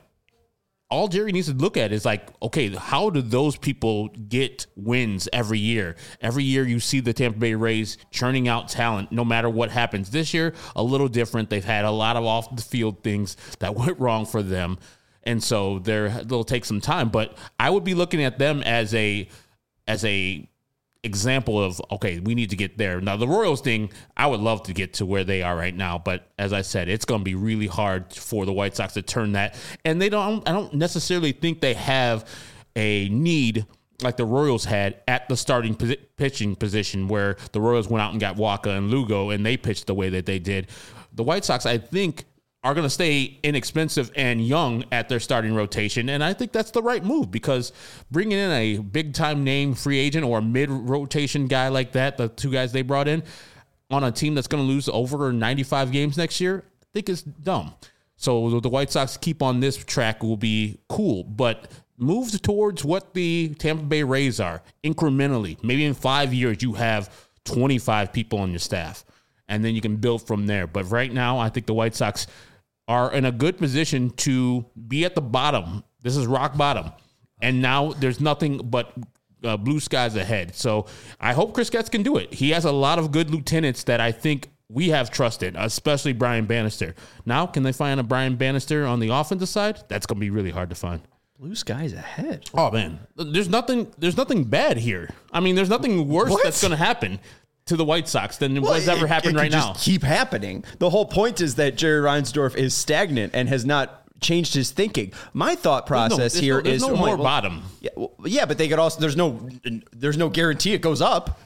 all Jerry needs to look at is like, okay, how do those people get wins every year? Every year you see the Tampa Bay Rays churning out talent no matter what happens. This year, a little different. They've had a lot of off-the-field things that went wrong for them. And so they're, they'll take some time. But I would be looking at them as a as a example of, okay, we need to get there. Now, the Royals thing, I would love to get to where they are right now. But as I said, it's going to be really hard for the White Sox to turn that. And they don't, I don't necessarily think they have a need like the Royals had at the starting posi- pitching position, where the Royals went out and got Walker and Lugo, and they pitched the way that they did. The White Sox, I think, are going to stay inexpensive and young at their starting rotation, and I think that's the right move, because bringing in a big-time name free agent or a mid-rotation guy like that, the two guys they brought in, on a team that's going to lose over ninety-five games next year, I think is dumb. So the White Sox keep on this track will be cool, but move towards what the Tampa Bay Rays are incrementally. Maybe in five years you have twenty-five people on your staff, and then you can build from there. But right now, I think the White Sox are in a good position to be at the bottom. This is rock bottom. And now there's nothing but uh, blue skies ahead. So I hope Chris Getz can do it. He has a lot of good lieutenants that I think we have trusted, especially Brian Bannister. Now, can they find a Brian Bannister on the offensive side? That's going to be really hard to find.
Blue skies ahead.
Oh man, there's nothing. There's nothing bad here. I mean, there's nothing worse
What?
that's going to happen to the White Sox than
Well,
what's ever
it-
happened
it
right
could
now.
just keep happening. The whole point is that Jerry Reinsdorf is stagnant and has not changed his thinking. My thought
There's no-
process
there's
here
no, there's
is
no
oh,
more
wait, well,
bottom.
Yeah, well, yeah, but they could also. There's no. There's no guarantee it goes up.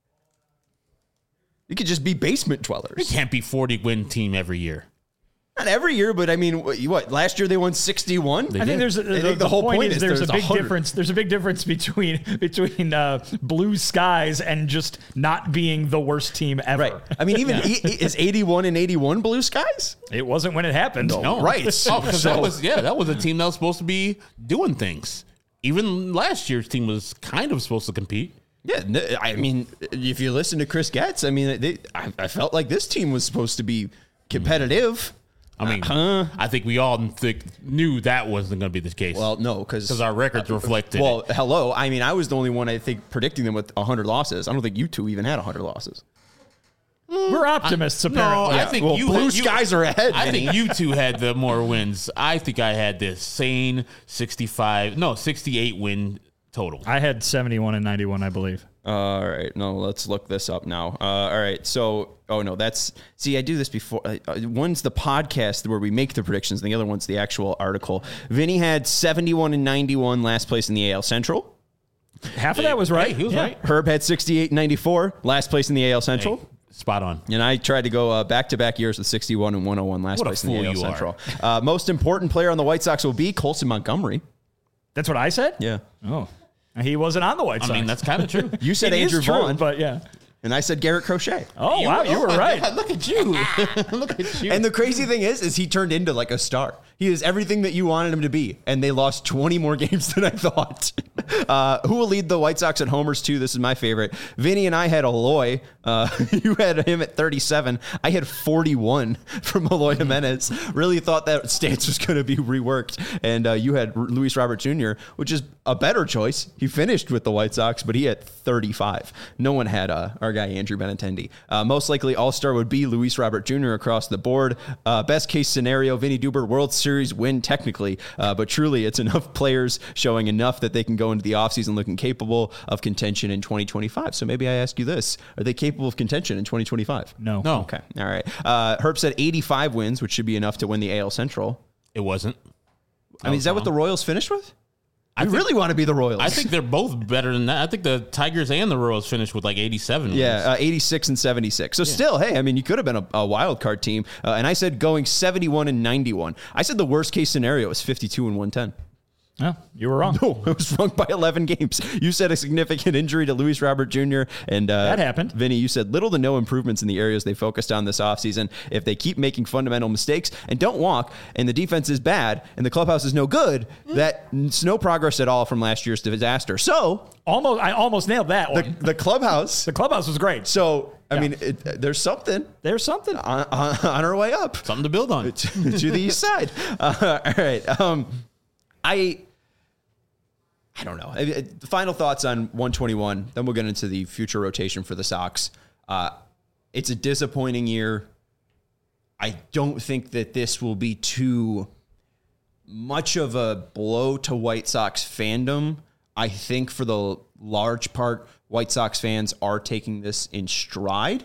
It could just be basement
It
dwellers.
can't be forty win team every year.
Not every year, but I mean, what? what last year they won sixty-one.
I think there's a,
I think
the,
the whole
point,
point
is
is
there's,
there's
a big
one hundred.
difference. There's a big difference between between uh, blue skies and just not being the worst team ever.
Right. I mean, even e- is eighty-one and eighty-one blue skies?
It wasn't when it happened.
No,
Right.
Oh, because that was yeah, that was a team that was supposed to be doing things. Even last year's team was kind of supposed to compete.
Yeah, n- I mean, if you listen to Chris Getz, I mean, they, I, I felt like this team was supposed to be competitive.
I mean,
Uh-huh.
I think we all think, knew that wasn't going to be the case.
Well, no, because
because our records reflected.
well,
it.
hello. I mean, I was the only one I think predicting them with one hundred losses. I don't think you two even had one hundred losses.
We're optimists,
no,
apparently.
I think
Well,
you
blue
you-
skies are ahead.
I
Vinny.
think you two had the more wins. I think I had this sane sixty-five, no, sixty-eight win total.
I had seventy-one and ninety-one, I believe.
All right, no, let's look this up now. Uh, all right, so oh no, that's see, I do this before. Uh, one's the podcast where we make the predictions, and the other one's the actual article. Vinny had seventy-one and ninety-one, last place in the A L Central.
Half of that was right.
Hey, he was
Yeah.
right.
Herb had sixty-eight and ninety-four, last place in the A L Central.
Hey, spot on.
And I tried to go uh, back-to-back years with sixty-one and one oh one, last
What a
place in the
fool
A L
you are.
Central. Uh, most important player on the White Sox will be Colson Montgomery.
That's what I said?
Yeah.
Oh. He wasn't on the White Sox.
I mean, that's kind of true.
You said
It is
Andrew
true,
Vaughn,
but yeah.
and I said Garrett Crochet.
Oh, wow, you were
my
right.
God, look at you. Look at you.
And the crazy thing is, is he turned into like a star. He is everything that you wanted him to be, and they lost twenty more games than I thought. Uh, who will lead the White Sox at homers too? This is my favorite. Vinny and I had Eloy. Uh, you had him at thirty-seven. I had forty-one from Eloy Jimenez. Really thought that stance was going to be reworked, and uh, you had Luis Robert Junior, which is a better choice. He finished with the White Sox, but he had thirty-five. No one had uh, our guy Andrew Benintendi. Uh, most likely All-Star would be Luis Robert Junior across the board. Uh, best case scenario, Vinny Duber World Series win technically, uh, but truly it's enough players showing enough that they can go into the offseason looking capable of contention in twenty twenty-five. So maybe I ask you this: are they capable of contention in twenty twenty-five?
No.
No.
Okay. All right. Uh, Herb said eighty-five wins, which should be enough to win the A L Central.
It wasn't.
I mean, is that what the Royals finished with? I,
think-
really want to be the Royals.
I think they're both better than that. I think the Tigers and the Royals finished with like eighty-seven wins.
Yeah, uh, eighty-six and seventy-six. So still, hey, I mean, you could have been a, a wild card team. Uh, and I said going seventy-one and ninety-one. I said the worst case scenario is fifty-two and one ten.
No, you were wrong.
No, it was wrong by eleven games. You said a significant injury to Luis Robert Junior And uh,
That happened.
Vinny, you said little to no improvements in the areas they focused on this offseason. If they keep making fundamental mistakes and don't walk, and the defense is bad, and the clubhouse is no good, that's no progress at all from last year's disaster. So
Almost, I almost nailed that
the,
one.
the clubhouse.
The clubhouse was great.
So, I
Yeah.
mean, it, there's something
There's something.
on, on, on our way up.
Something to build on.
to, to the east side. Uh, all right. Um, I I don't know. I- I- The final thoughts on one twenty-one. Then we'll get into the future rotation for the Sox. Uh, it's a disappointing year. I don't think that this will be too much of a blow to White Sox fandom. I think for the large part, White Sox fans are taking this in stride.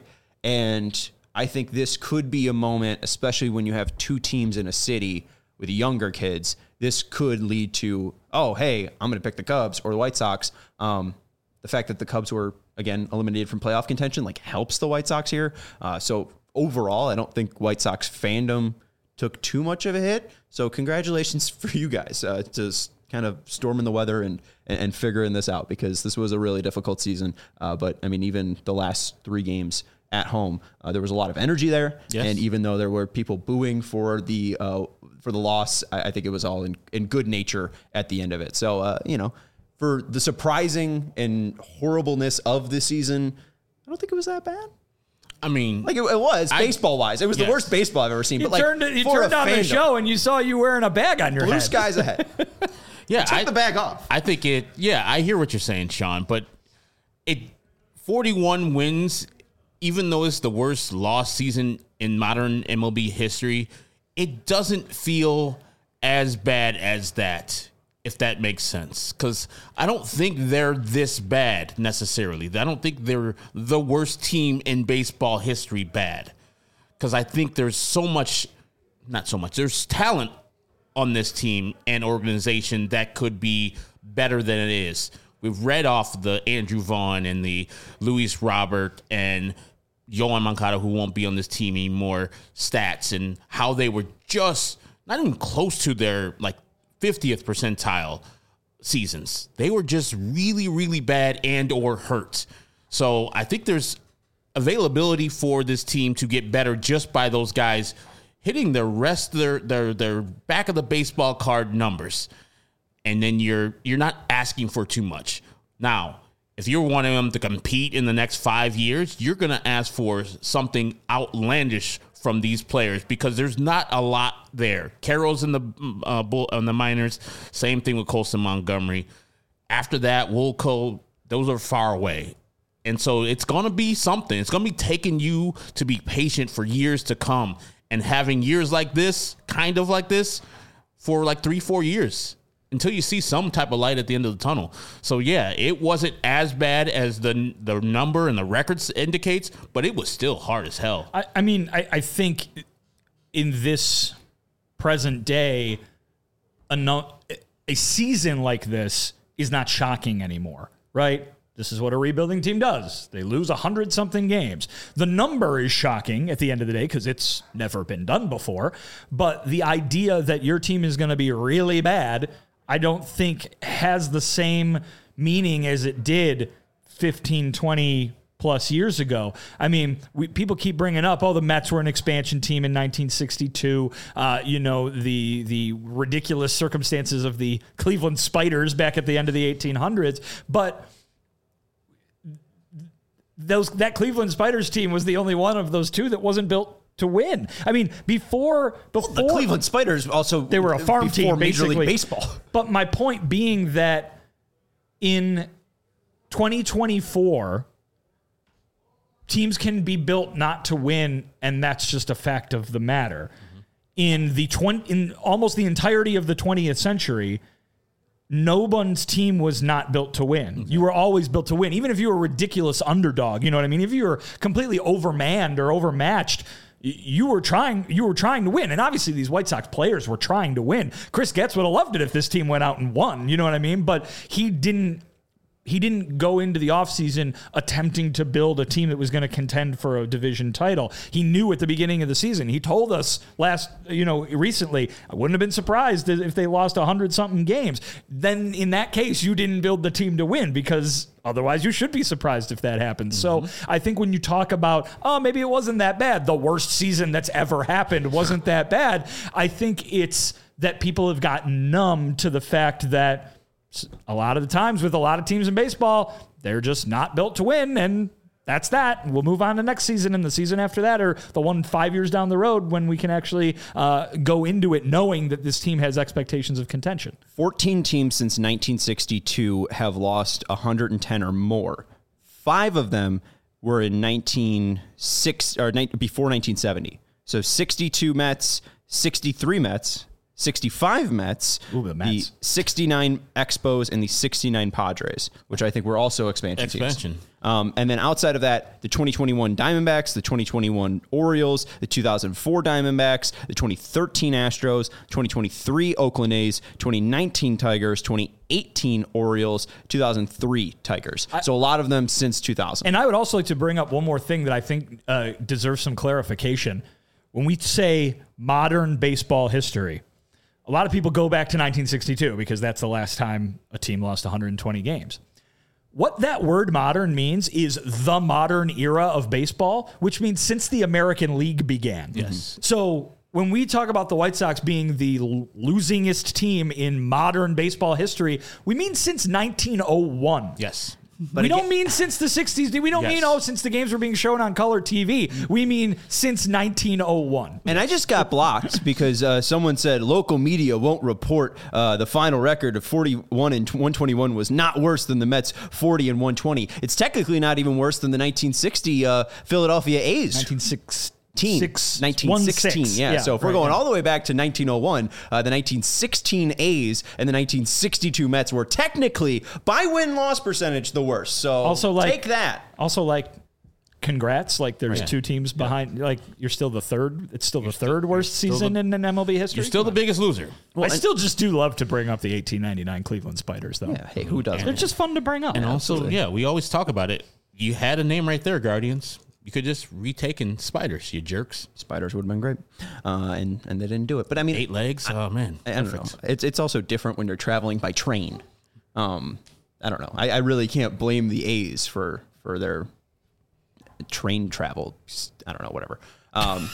And I think this could be a moment, especially when you have two teams in a city with younger kids. This could lead to, oh, hey, I'm going to pick the Cubs or the White Sox. Um, the fact that the Cubs were, again, eliminated from playoff contention, like, helps the White Sox here. Uh, so overall, I don't think White Sox fandom took too much of a hit. So congratulations for you guys uh, to kind of storming the weather and, and, and figuring this out, because this was a really difficult season. Uh, but, I mean, even the last three games at home, uh, there was a lot of energy there. Yes. And even though there were people booing for the uh, for the loss, I, I think it was all in, in good nature at the end of it. So, uh, you know, for the surprising and horribleness of this season, I don't think it was that bad.
I mean,
like it, it was baseball wise. It was yes. the worst baseball I've ever seen.
You
but like,
turned, you turned on fandom, the show and you saw you wearing a bag on your
blue
head.
Blue skies ahead.
Yeah,
take
I,
the bag off.
I think it. Yeah, I hear what you're saying, Sean. But it forty-one wins, even though it's the worst loss season in modern M L B history, it doesn't feel as bad as that, if that makes sense. Because I don't think they're this bad necessarily. I don't think they're the worst team in baseball history bad. Because I think there's so much, not so much, there's talent on this team and organization that could be better than it is. We've read off the Andrew Vaughn and the Luis Robert and Yoan Moncada, who won't be on this team anymore, stats and how they were just not even close to their like fiftieth percentile seasons. They were just really, really bad and or hurt. So I think there's availability for this team to get better just by those guys hitting the rest of their, their, their back of the baseball card numbers. And then you're you're not asking for too much. Now, if you're wanting them to compete in the next five years, you're going to ask for something outlandish from these players because there's not a lot there. Carroll's in the uh, bull, on the minors. Same thing with Colson Montgomery. After that, Woolco, those are far away. And so it's going to be something. It's going to be taking you to be patient for years to come and having years like this, kind of like this, for like three, four years. Until you see some type of light at the end of the tunnel. So, yeah, it wasn't as bad as the the number and the records indicates, but it was still hard as hell.
I, I mean, I, I think in this present day, a, no, a season like this is not shocking anymore, right? This is what a rebuilding team does. They lose one hundred something games. The number is shocking at the end of the day because it's never been done before. But the idea that your team is going to be really bad, I don't think has the same meaning as it did fifteen, twenty plus years ago. I mean, we, people keep bringing up, oh, the Mets were an expansion team in nineteen sixty-two. Uh, you know, the the ridiculous circumstances of the Cleveland Spiders back at the end of the eighteen hundreds. But those that Cleveland Spiders team was the only one of those two that wasn't built to win. I mean, before before
well, the Cleveland Spiders also
they were a farm team,
Major
basically.
League Baseball.
But my point being that in twenty twenty-four, teams can be built not to win, and that's just a fact of the matter. Mm-hmm. In the twenty, in almost the entirety of the twentieth century, no one's team was not built to win. Mm-hmm. You were always built to win, even if you were a ridiculous underdog. You know what I mean? If you were completely overmanned or overmatched, you were trying you were trying to win. And obviously these White Sox players were trying to win. Chris Getz would have loved it if this team went out and won. You know what I mean? But he didn't he didn't go into the offseason attempting to build a team that was going to contend for a division title. He knew at the beginning of the season. He told us last, you know, recently, I wouldn't have been surprised if they lost one hundred something games. Then in that case, you didn't build the team to win because otherwise you should be surprised if that happens. Mm-hmm. So I think when you talk about, oh, maybe it wasn't that bad, the worst season that's ever happened wasn't that bad, I think it's that people have gotten numb to the fact that a lot of the times with a lot of teams in baseball, they're just not built to win, and that's that. We'll move on to next season and the season after that, or the one five years down the road when we can actually uh, go into it knowing that this team has expectations of contention.
fourteen teams since nineteen sixty-two have lost one hundred ten or more. Five of them were in nineteen sixty or before nineteen seventy. So sixty-two Mets, sixty-three Mets, sixty-five Mets,
Ooh, the Mets.
the sixty-nine Expos, and the sixty-nine Padres, which I think were also expansion,
Expansion.
teams. Um, and then outside of that, the twenty twenty-one Diamondbacks, the twenty twenty-one Orioles, the two thousand four Diamondbacks, the twenty thirteen Astros, twenty twenty-three Oakland A's, twenty nineteen Tigers, twenty eighteen Orioles, two thousand three Tigers. I, so a lot of them since two thousand.
And I would also like to bring up one more thing that I think uh, deserves some clarification. When we say modern baseball history, a lot of people go back to nineteen sixty-two because that's the last time a team lost one hundred twenty games. What that word modern means is the modern era of baseball, which means since the American League began.
Yes.
So when we talk about the White Sox being the losingest team in modern baseball history, we mean since nineteen oh one.
Yes.
But we again, don't mean since the sixties. We don't yes. mean, oh, since the games were being shown on color T V. We mean since nineteen oh one.
And I just got blocked because uh, someone said local media won't report uh, the final record of forty-one and one twenty-one was not worse than the Mets forty and one twenty. It's technically not even worse than the nineteen sixty uh, Philadelphia A's.
nineteen sixty.
Six, nineteen sixteen, yeah. yeah. So if we're right, going yeah. all the way back to nineteen oh one, uh, the nineteen sixteen A's and the nineteen sixty-two Mets were technically, by win-loss percentage, the worst. So also like, take that.
Also, like, congrats. Like, there's yeah. two teams behind. Yeah. Like, you're still the third. It's still you're the third still, worst season the, in, in M L B history.
You're still the biggest loser.
Well, I still just do love to bring up the eighteen ninety-nine Cleveland Spiders, though.
Yeah, hey, who doesn't?
They're just fun to bring up.
And also, absolutely. yeah, we always talk about it. You had a name right there, Guardians. You could just retaken Spiders, you jerks.
Spiders would have been great, uh, and and they didn't do it. But I mean,
eight legs. I, oh man,
I, I don't know. It's it's also different when you're traveling by train. Um, I don't know. I, I really can't blame the A's for for their train travel. I don't know. Whatever. Um,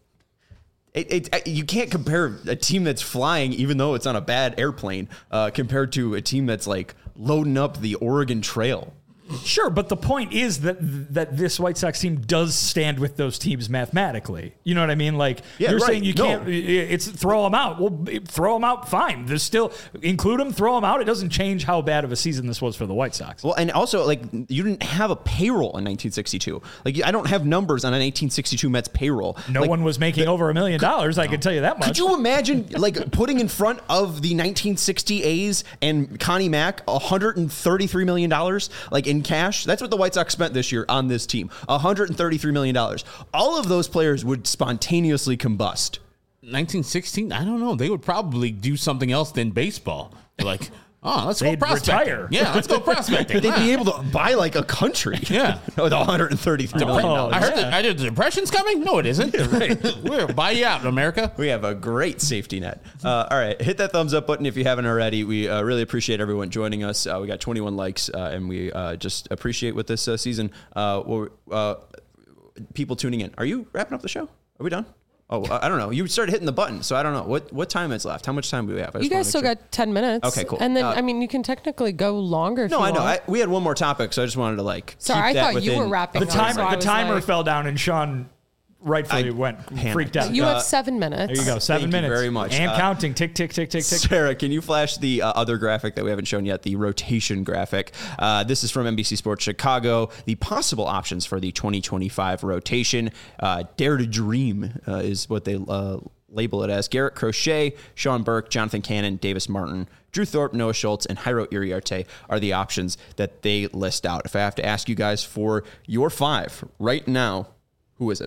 it, it you can't compare a team that's flying, even though it's on a bad airplane, uh, compared to a team that's like loading up the Oregon Trail.
Sure, but the point is that that this White Sox team does stand with those teams mathematically. You know what I mean? Like, yeah, you're right. saying you can't, no. it's throw them out. Well, throw them out, fine. There's still, include them, throw them out. It doesn't change how bad of a season this was for the White Sox.
Well, and also, like, you didn't have a payroll in nineteen sixty-two. Like, I don't have numbers on an eighteen sixty-two Mets payroll.
No
like,
one was making the, over a million dollars, I can tell you that much.
Could you imagine, like, putting in front of the nineteen sixty A's and Connie Mack one hundred thirty-three million dollars, like, in cash? That's what the White Sox spent this year on this team. one hundred thirty-three million dollars. All of those players would spontaneously combust.
nineteen sixteen? I don't know. They would probably do something else than baseball. Like, oh, let's
They'd
go prospecting.
Retire.
Yeah, let's go prospecting.
They'd be able to buy like a country.
Yeah.
With one hundred thirty-three million dollars.
I heard that I did the depression's coming? No, it isn't. Yeah, right. We're buy you out, America.
We have a great safety net. Uh, all right. Hit that thumbs up button if you haven't already. We uh, really appreciate everyone joining us. Uh, we got twenty-one likes, uh, and we uh, just appreciate with this uh, season. Uh, well, uh, people tuning in. Are you wrapping up the show? Are we done? Oh, I don't know. You started hitting the button, so I don't know. What what time is left? How much time do we have?
You guys still sure. got ten minutes.
Okay, cool.
And then,
uh,
I mean, you can technically go longer if
no,
you
I know.
want.
I, we had one more topic, so I just wanted to, like,
Sorry,
keep
I
that
thought
within.
you were wrapping
The timer,
up, so
the timer
like,
fell down, and Sean rightfully
I
went
panicked.
freaked out.
You
Uh,
have seven minutes.
There you go, seven
Thank
minutes.
you very much.
And
Uh,
counting. Tick, tick, tick, tick, tick.
Sarah, can you flash the uh, other graphic that we haven't shown yet, the rotation graphic? Uh, this is from N B C Sports Chicago. The possible options for the twenty twenty-five rotation. Uh, Dare to Dream uh, is what they uh, label it as. Garrett Crochet, Sean Burke, Jonathan Cannon, Davis Martin, Drew Thorpe, Noah Schultz, and Jairo Iriarte are the options that they list out. If I have to ask you guys for your five right now, who is it?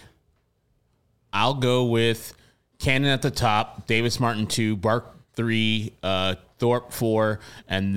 I'll go with Cannon at the top, Davis Martin two, Bark three, uh, Thorpe four, and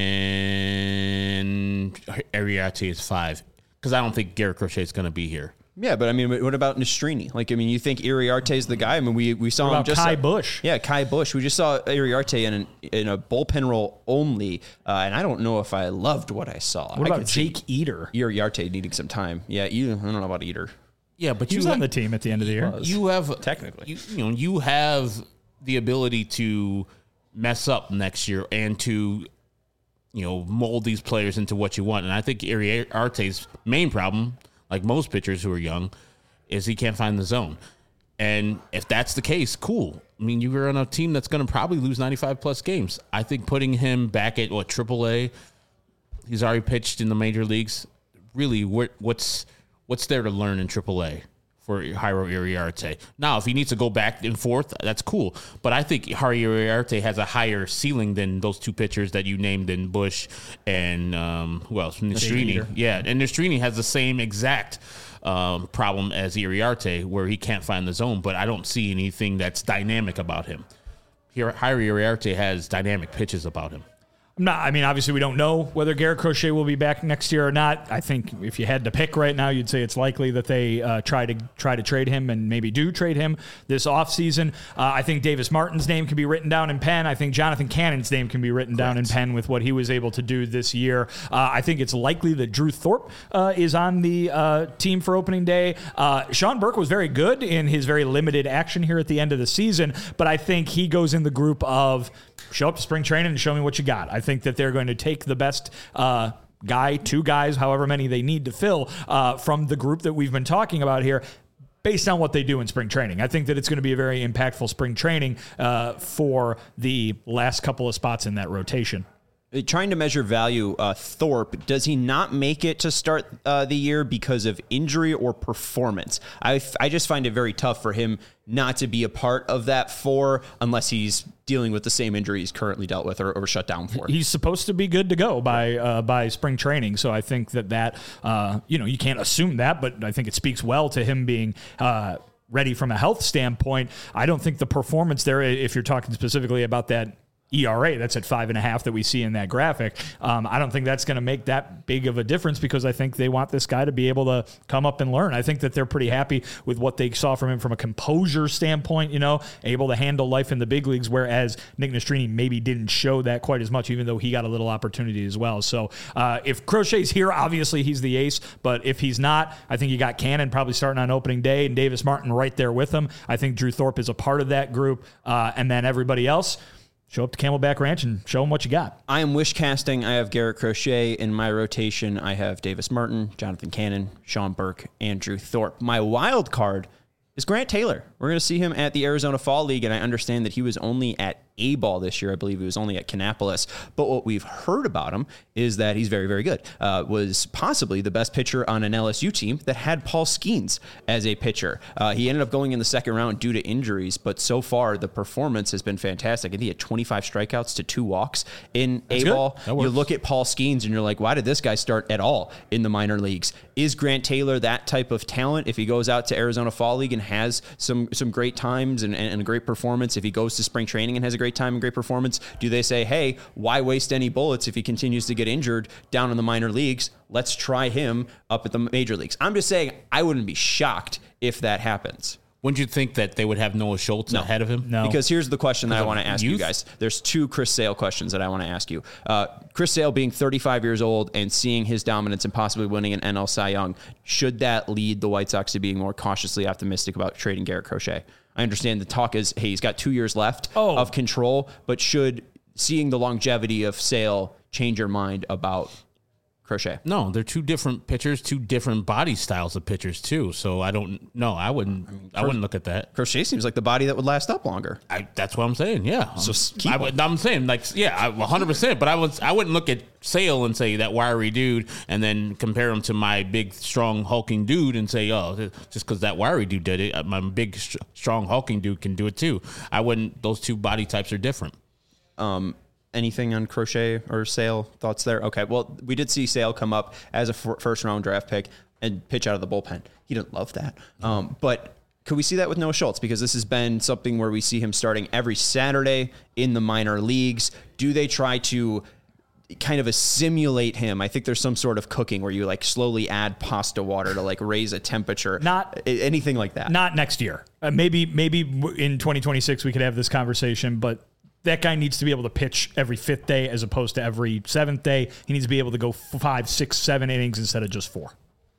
then Iriarte is five. Because I don't think Garrett Crochet is going to be here.
Yeah, but I mean, what about Nastrini? Like, I mean, you think Iriarte is the guy? I mean, we we saw
what
him just
Kai
uh,
Bush.
Yeah, Kai Bush. We just saw Iriarte in an, in a bullpen role only, uh, and I don't know if I loved what I saw.
What
I
about Jake Eater?
Iriarte needing some time. Yeah, Eater, I don't know about Eater.
Yeah, but
he
you
was
ha-
on the team at the end of the year.
You have
technically,
you, you know, you have the ability to mess up next year and to, you know, mold these players into what you want. And I think Iriarte's main problem, like most pitchers who are young, is he can't find the zone. And if that's the case, cool. I mean, you were on a team that's going to probably lose ninety-five plus games. I think putting him back at what triple A, he's already pitched in the major leagues. Really, what, what's what's there to learn in triple A? for Jairo Iriarte. Now, if he needs to go back and forth, that's cool. But I think Jairo Iriarte has a higher ceiling than those two pitchers that you named in Bush and um, who else? Nastrini. Yeah, and Nastrini has the same exact um, problem as Iriarte, where he can't find the zone. But I don't see anything that's dynamic about him. Here, Jairo Iriarte has dynamic pitches about him.
I'm not, I mean, obviously, we don't know whether Garrett Crochet will be back next year or not. I think if you had to pick right now, you'd say it's likely that they uh, try to try to trade him and maybe do trade him this offseason. Uh, I think Davis Martin's name can be written down in pen. I think Jonathan Cannon's name can be written Correct. down in pen with what he was able to do this year. Uh, I think it's likely that Drew Thorpe uh, is on the uh, team for opening day. Uh, Sean Burke was very good in his very limited action here at the end of the season, but I think he goes in the group of show up to spring training and show me what you got. I think that they're going to take the best uh, guy, two guys, however many they need to fill uh, from the group that we've been talking about here, based on what they do in spring training. I think that it's going to be a very impactful spring training uh, for the last couple of spots in that rotation.
Trying to measure value, uh, Thorpe, does he not make it to start uh, the year because of injury or performance? I, f- I just find it very tough for him not to be a part of that four unless he's dealing with the same injury he's currently dealt with or, or shut down for.
He's supposed to be good to go by uh, by spring training, so I think that that, uh, you know, you can't assume that, but I think it speaks well to him being uh, ready from a health standpoint. I don't think the performance there, if you're talking specifically about that E R A, that's at five and a half that we see in that graphic. Um, I don't think that's going to make that big of a difference because I think they want this guy to be able to come up and learn. I think that they're pretty happy with what they saw from him from a composure standpoint, you know, able to handle life in the big leagues, whereas Nick Nastrini maybe didn't show that quite as much, even though he got a little opportunity as well. So uh, if Crochet's here, obviously he's the ace, but if he's not, I think you got Cannon probably starting on opening day and Davis Martin right there with him. I think Drew Thorpe is a part of that group, uh, and then everybody else, show up to Camelback Ranch and show them what you got.
I am wish casting. I have Garrett Crochet in my rotation. I have Davis Martin, Jonathan Cannon, Sean Burke, and Drew Thorpe. My wild card is Grant Taylor. We're going to see him at the Arizona Fall League, and I understand that he was only at A-ball this year. I believe he was only at Kannapolis. But what we've heard about him is that he's very, very good. Uh, was possibly the best pitcher on an L S U team that had Paul Skeens as a pitcher. Uh, he ended up going in the second round due to injuries, but so far the performance has been fantastic. I think he had twenty-five strikeouts to two walks in That's A-ball. You look at Paul Skeens and you're like, why did this guy start at all in the minor leagues? Is Grant Taylor that type of talent? If he goes out to Arizona Fall League and has some some great times and, and a great performance, if he goes to spring training and has a great time and great performance, do they say, hey, why waste any bullets if he continues to get injured down in the minor leagues? Let's try him up at the major leagues. I'm just saying I wouldn't be shocked if that happens.
Wouldn't you think that they would have Noah Schultz
no.
ahead of him?
No.
Because here's the question that I want to ask
youth?
you guys. There's two Chris Sale questions that I want to ask you. Uh, Chris Sale being thirty-five years old and seeing his dominance and possibly winning an N L Cy Young, should that lead the White Sox to being more cautiously optimistic about trading Garrett Crochet? I understand the talk is, hey, he's got two years left oh. of control, but should seeing the longevity of Sale change your mind about Crochet?
No, they're two different pitchers, two different body styles of pitchers too. So I don't know. I wouldn't. I, mean, I wouldn't look at that.
Crochet seems like the body that would last up longer.
I, that's what I'm saying. Yeah.
So keep
I would, I'm saying like yeah, one hundred percent. But I was I wouldn't look at Sale and say that wiry dude, and then compare him to my big, strong, hulking dude, and say, oh, just because that wiry dude did it, my big, strong, hulking dude can do it too. I wouldn't. Those two body types are different.
Um. Anything on Crochet or Sale? Thoughts there? Okay, well, we did see Sale come up as a f- first-round draft pick and pitch out of the bullpen. He didn't love that. Um, but could we see that with Noah Schultz? Because this has been something where we see him starting every Saturday in the minor leagues. Do they try to kind of assimilate him? I think there's some sort of cooking where you like slowly add pasta water to like raise a temperature.
Not
anything like that.
Not next year. Uh, maybe maybe in twenty twenty-six we could have this conversation, but that guy needs to be able to pitch every fifth day as opposed to every seventh day. He needs to be able to go five, six, seven innings instead of just four.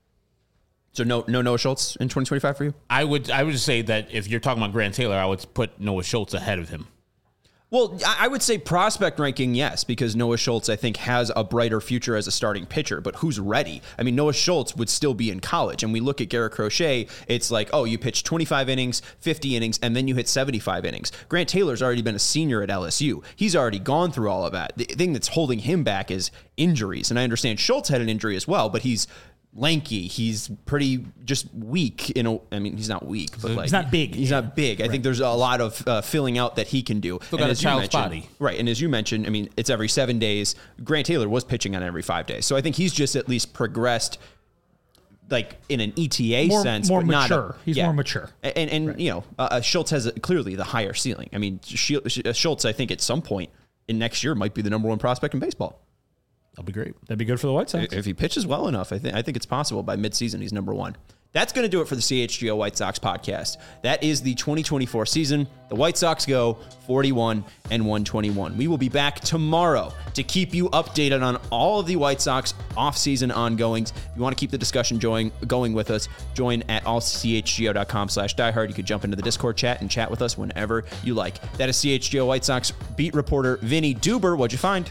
So no, no Noah Schultz in twenty twenty-five for you?
I would, I would say that if you're talking about Grant Taylor, I would put Noah Schultz ahead of him.
Well, I would say prospect ranking, yes, because Noah Schultz, I think, has a brighter future as a starting pitcher, but who's ready? I mean, Noah Schultz would still be in college, and we look at Garrett Crochet, it's like, oh, you pitch twenty-five innings, fifty innings, and then you hit seventy-five innings. Grant Taylor's already been a senior at L S U. He's already gone through all of that. The thing that's holding him back is injuries, and I understand Schultz had an injury as well, but he's lanky. He's pretty just weak. In a, I mean, he's not weak, but like
he's not big.
He's
Yeah.
not big. I think there's a lot of uh, filling out that he can do.
Still
And
got a
as you
child's
mentioned-
body.
right? And as you mentioned, I mean, it's every seven days. Grant Taylor was pitching on every five days, so I think he's just at least progressed, like in an E T A
More-
sense,
more
but not a-
mature. He's more mature.
And and you know, uh, Schultz has a, clearly the higher ceiling. I mean, Schultz, I think at some point in next year might be the number one prospect in baseball.
That'll be great.
That'd be good for the White Sox.
If he pitches well enough, I think I think it's possible by midseason he's number one. That's going to do it for the C H G O White Sox podcast. That is the twenty twenty-four season. The White Sox go forty-one and one twenty-one. We will be back tomorrow to keep you updated on all of the White Sox offseason ongoings. If you want to keep the discussion going, going with us, join at all c h g o dot com slash diehard. You can jump into the Discord chat and chat with us whenever you like. That is C H G O White Sox beat reporter Vinny Duber. What'd you find?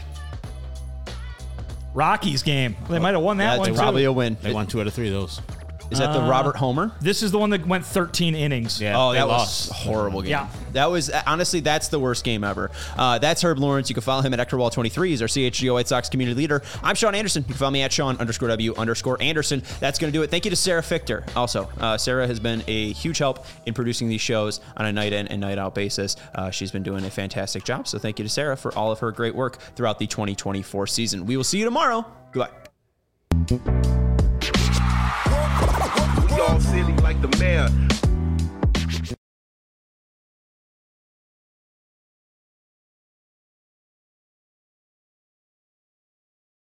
Rockies game. They might have won that
That's
one too.
probably a win.
They won two out of three of those.
Is that the Robert Homer?
This is the one that went thirteen innings.
Yeah,
Oh,
they
that
lost.
was a horrible game.
Yeah.
That was, honestly, that's the worst game ever. Uh, that's Herb Lawrence. You can follow him at Ectorwall twenty-three. He's our C H G O White Sox community leader. I'm Sean Anderson. You can follow me at Sean underscore W underscore Anderson. That's going to do it. Thank you to Sarah Fichter. Also, uh, Sarah has been a huge help in producing these shows on a night in and night out basis. Uh, she's been doing a fantastic job. So thank you to Sarah for all of her great work throughout the twenty twenty-four season. We will see you tomorrow. Goodbye.
We all silly like the mayor.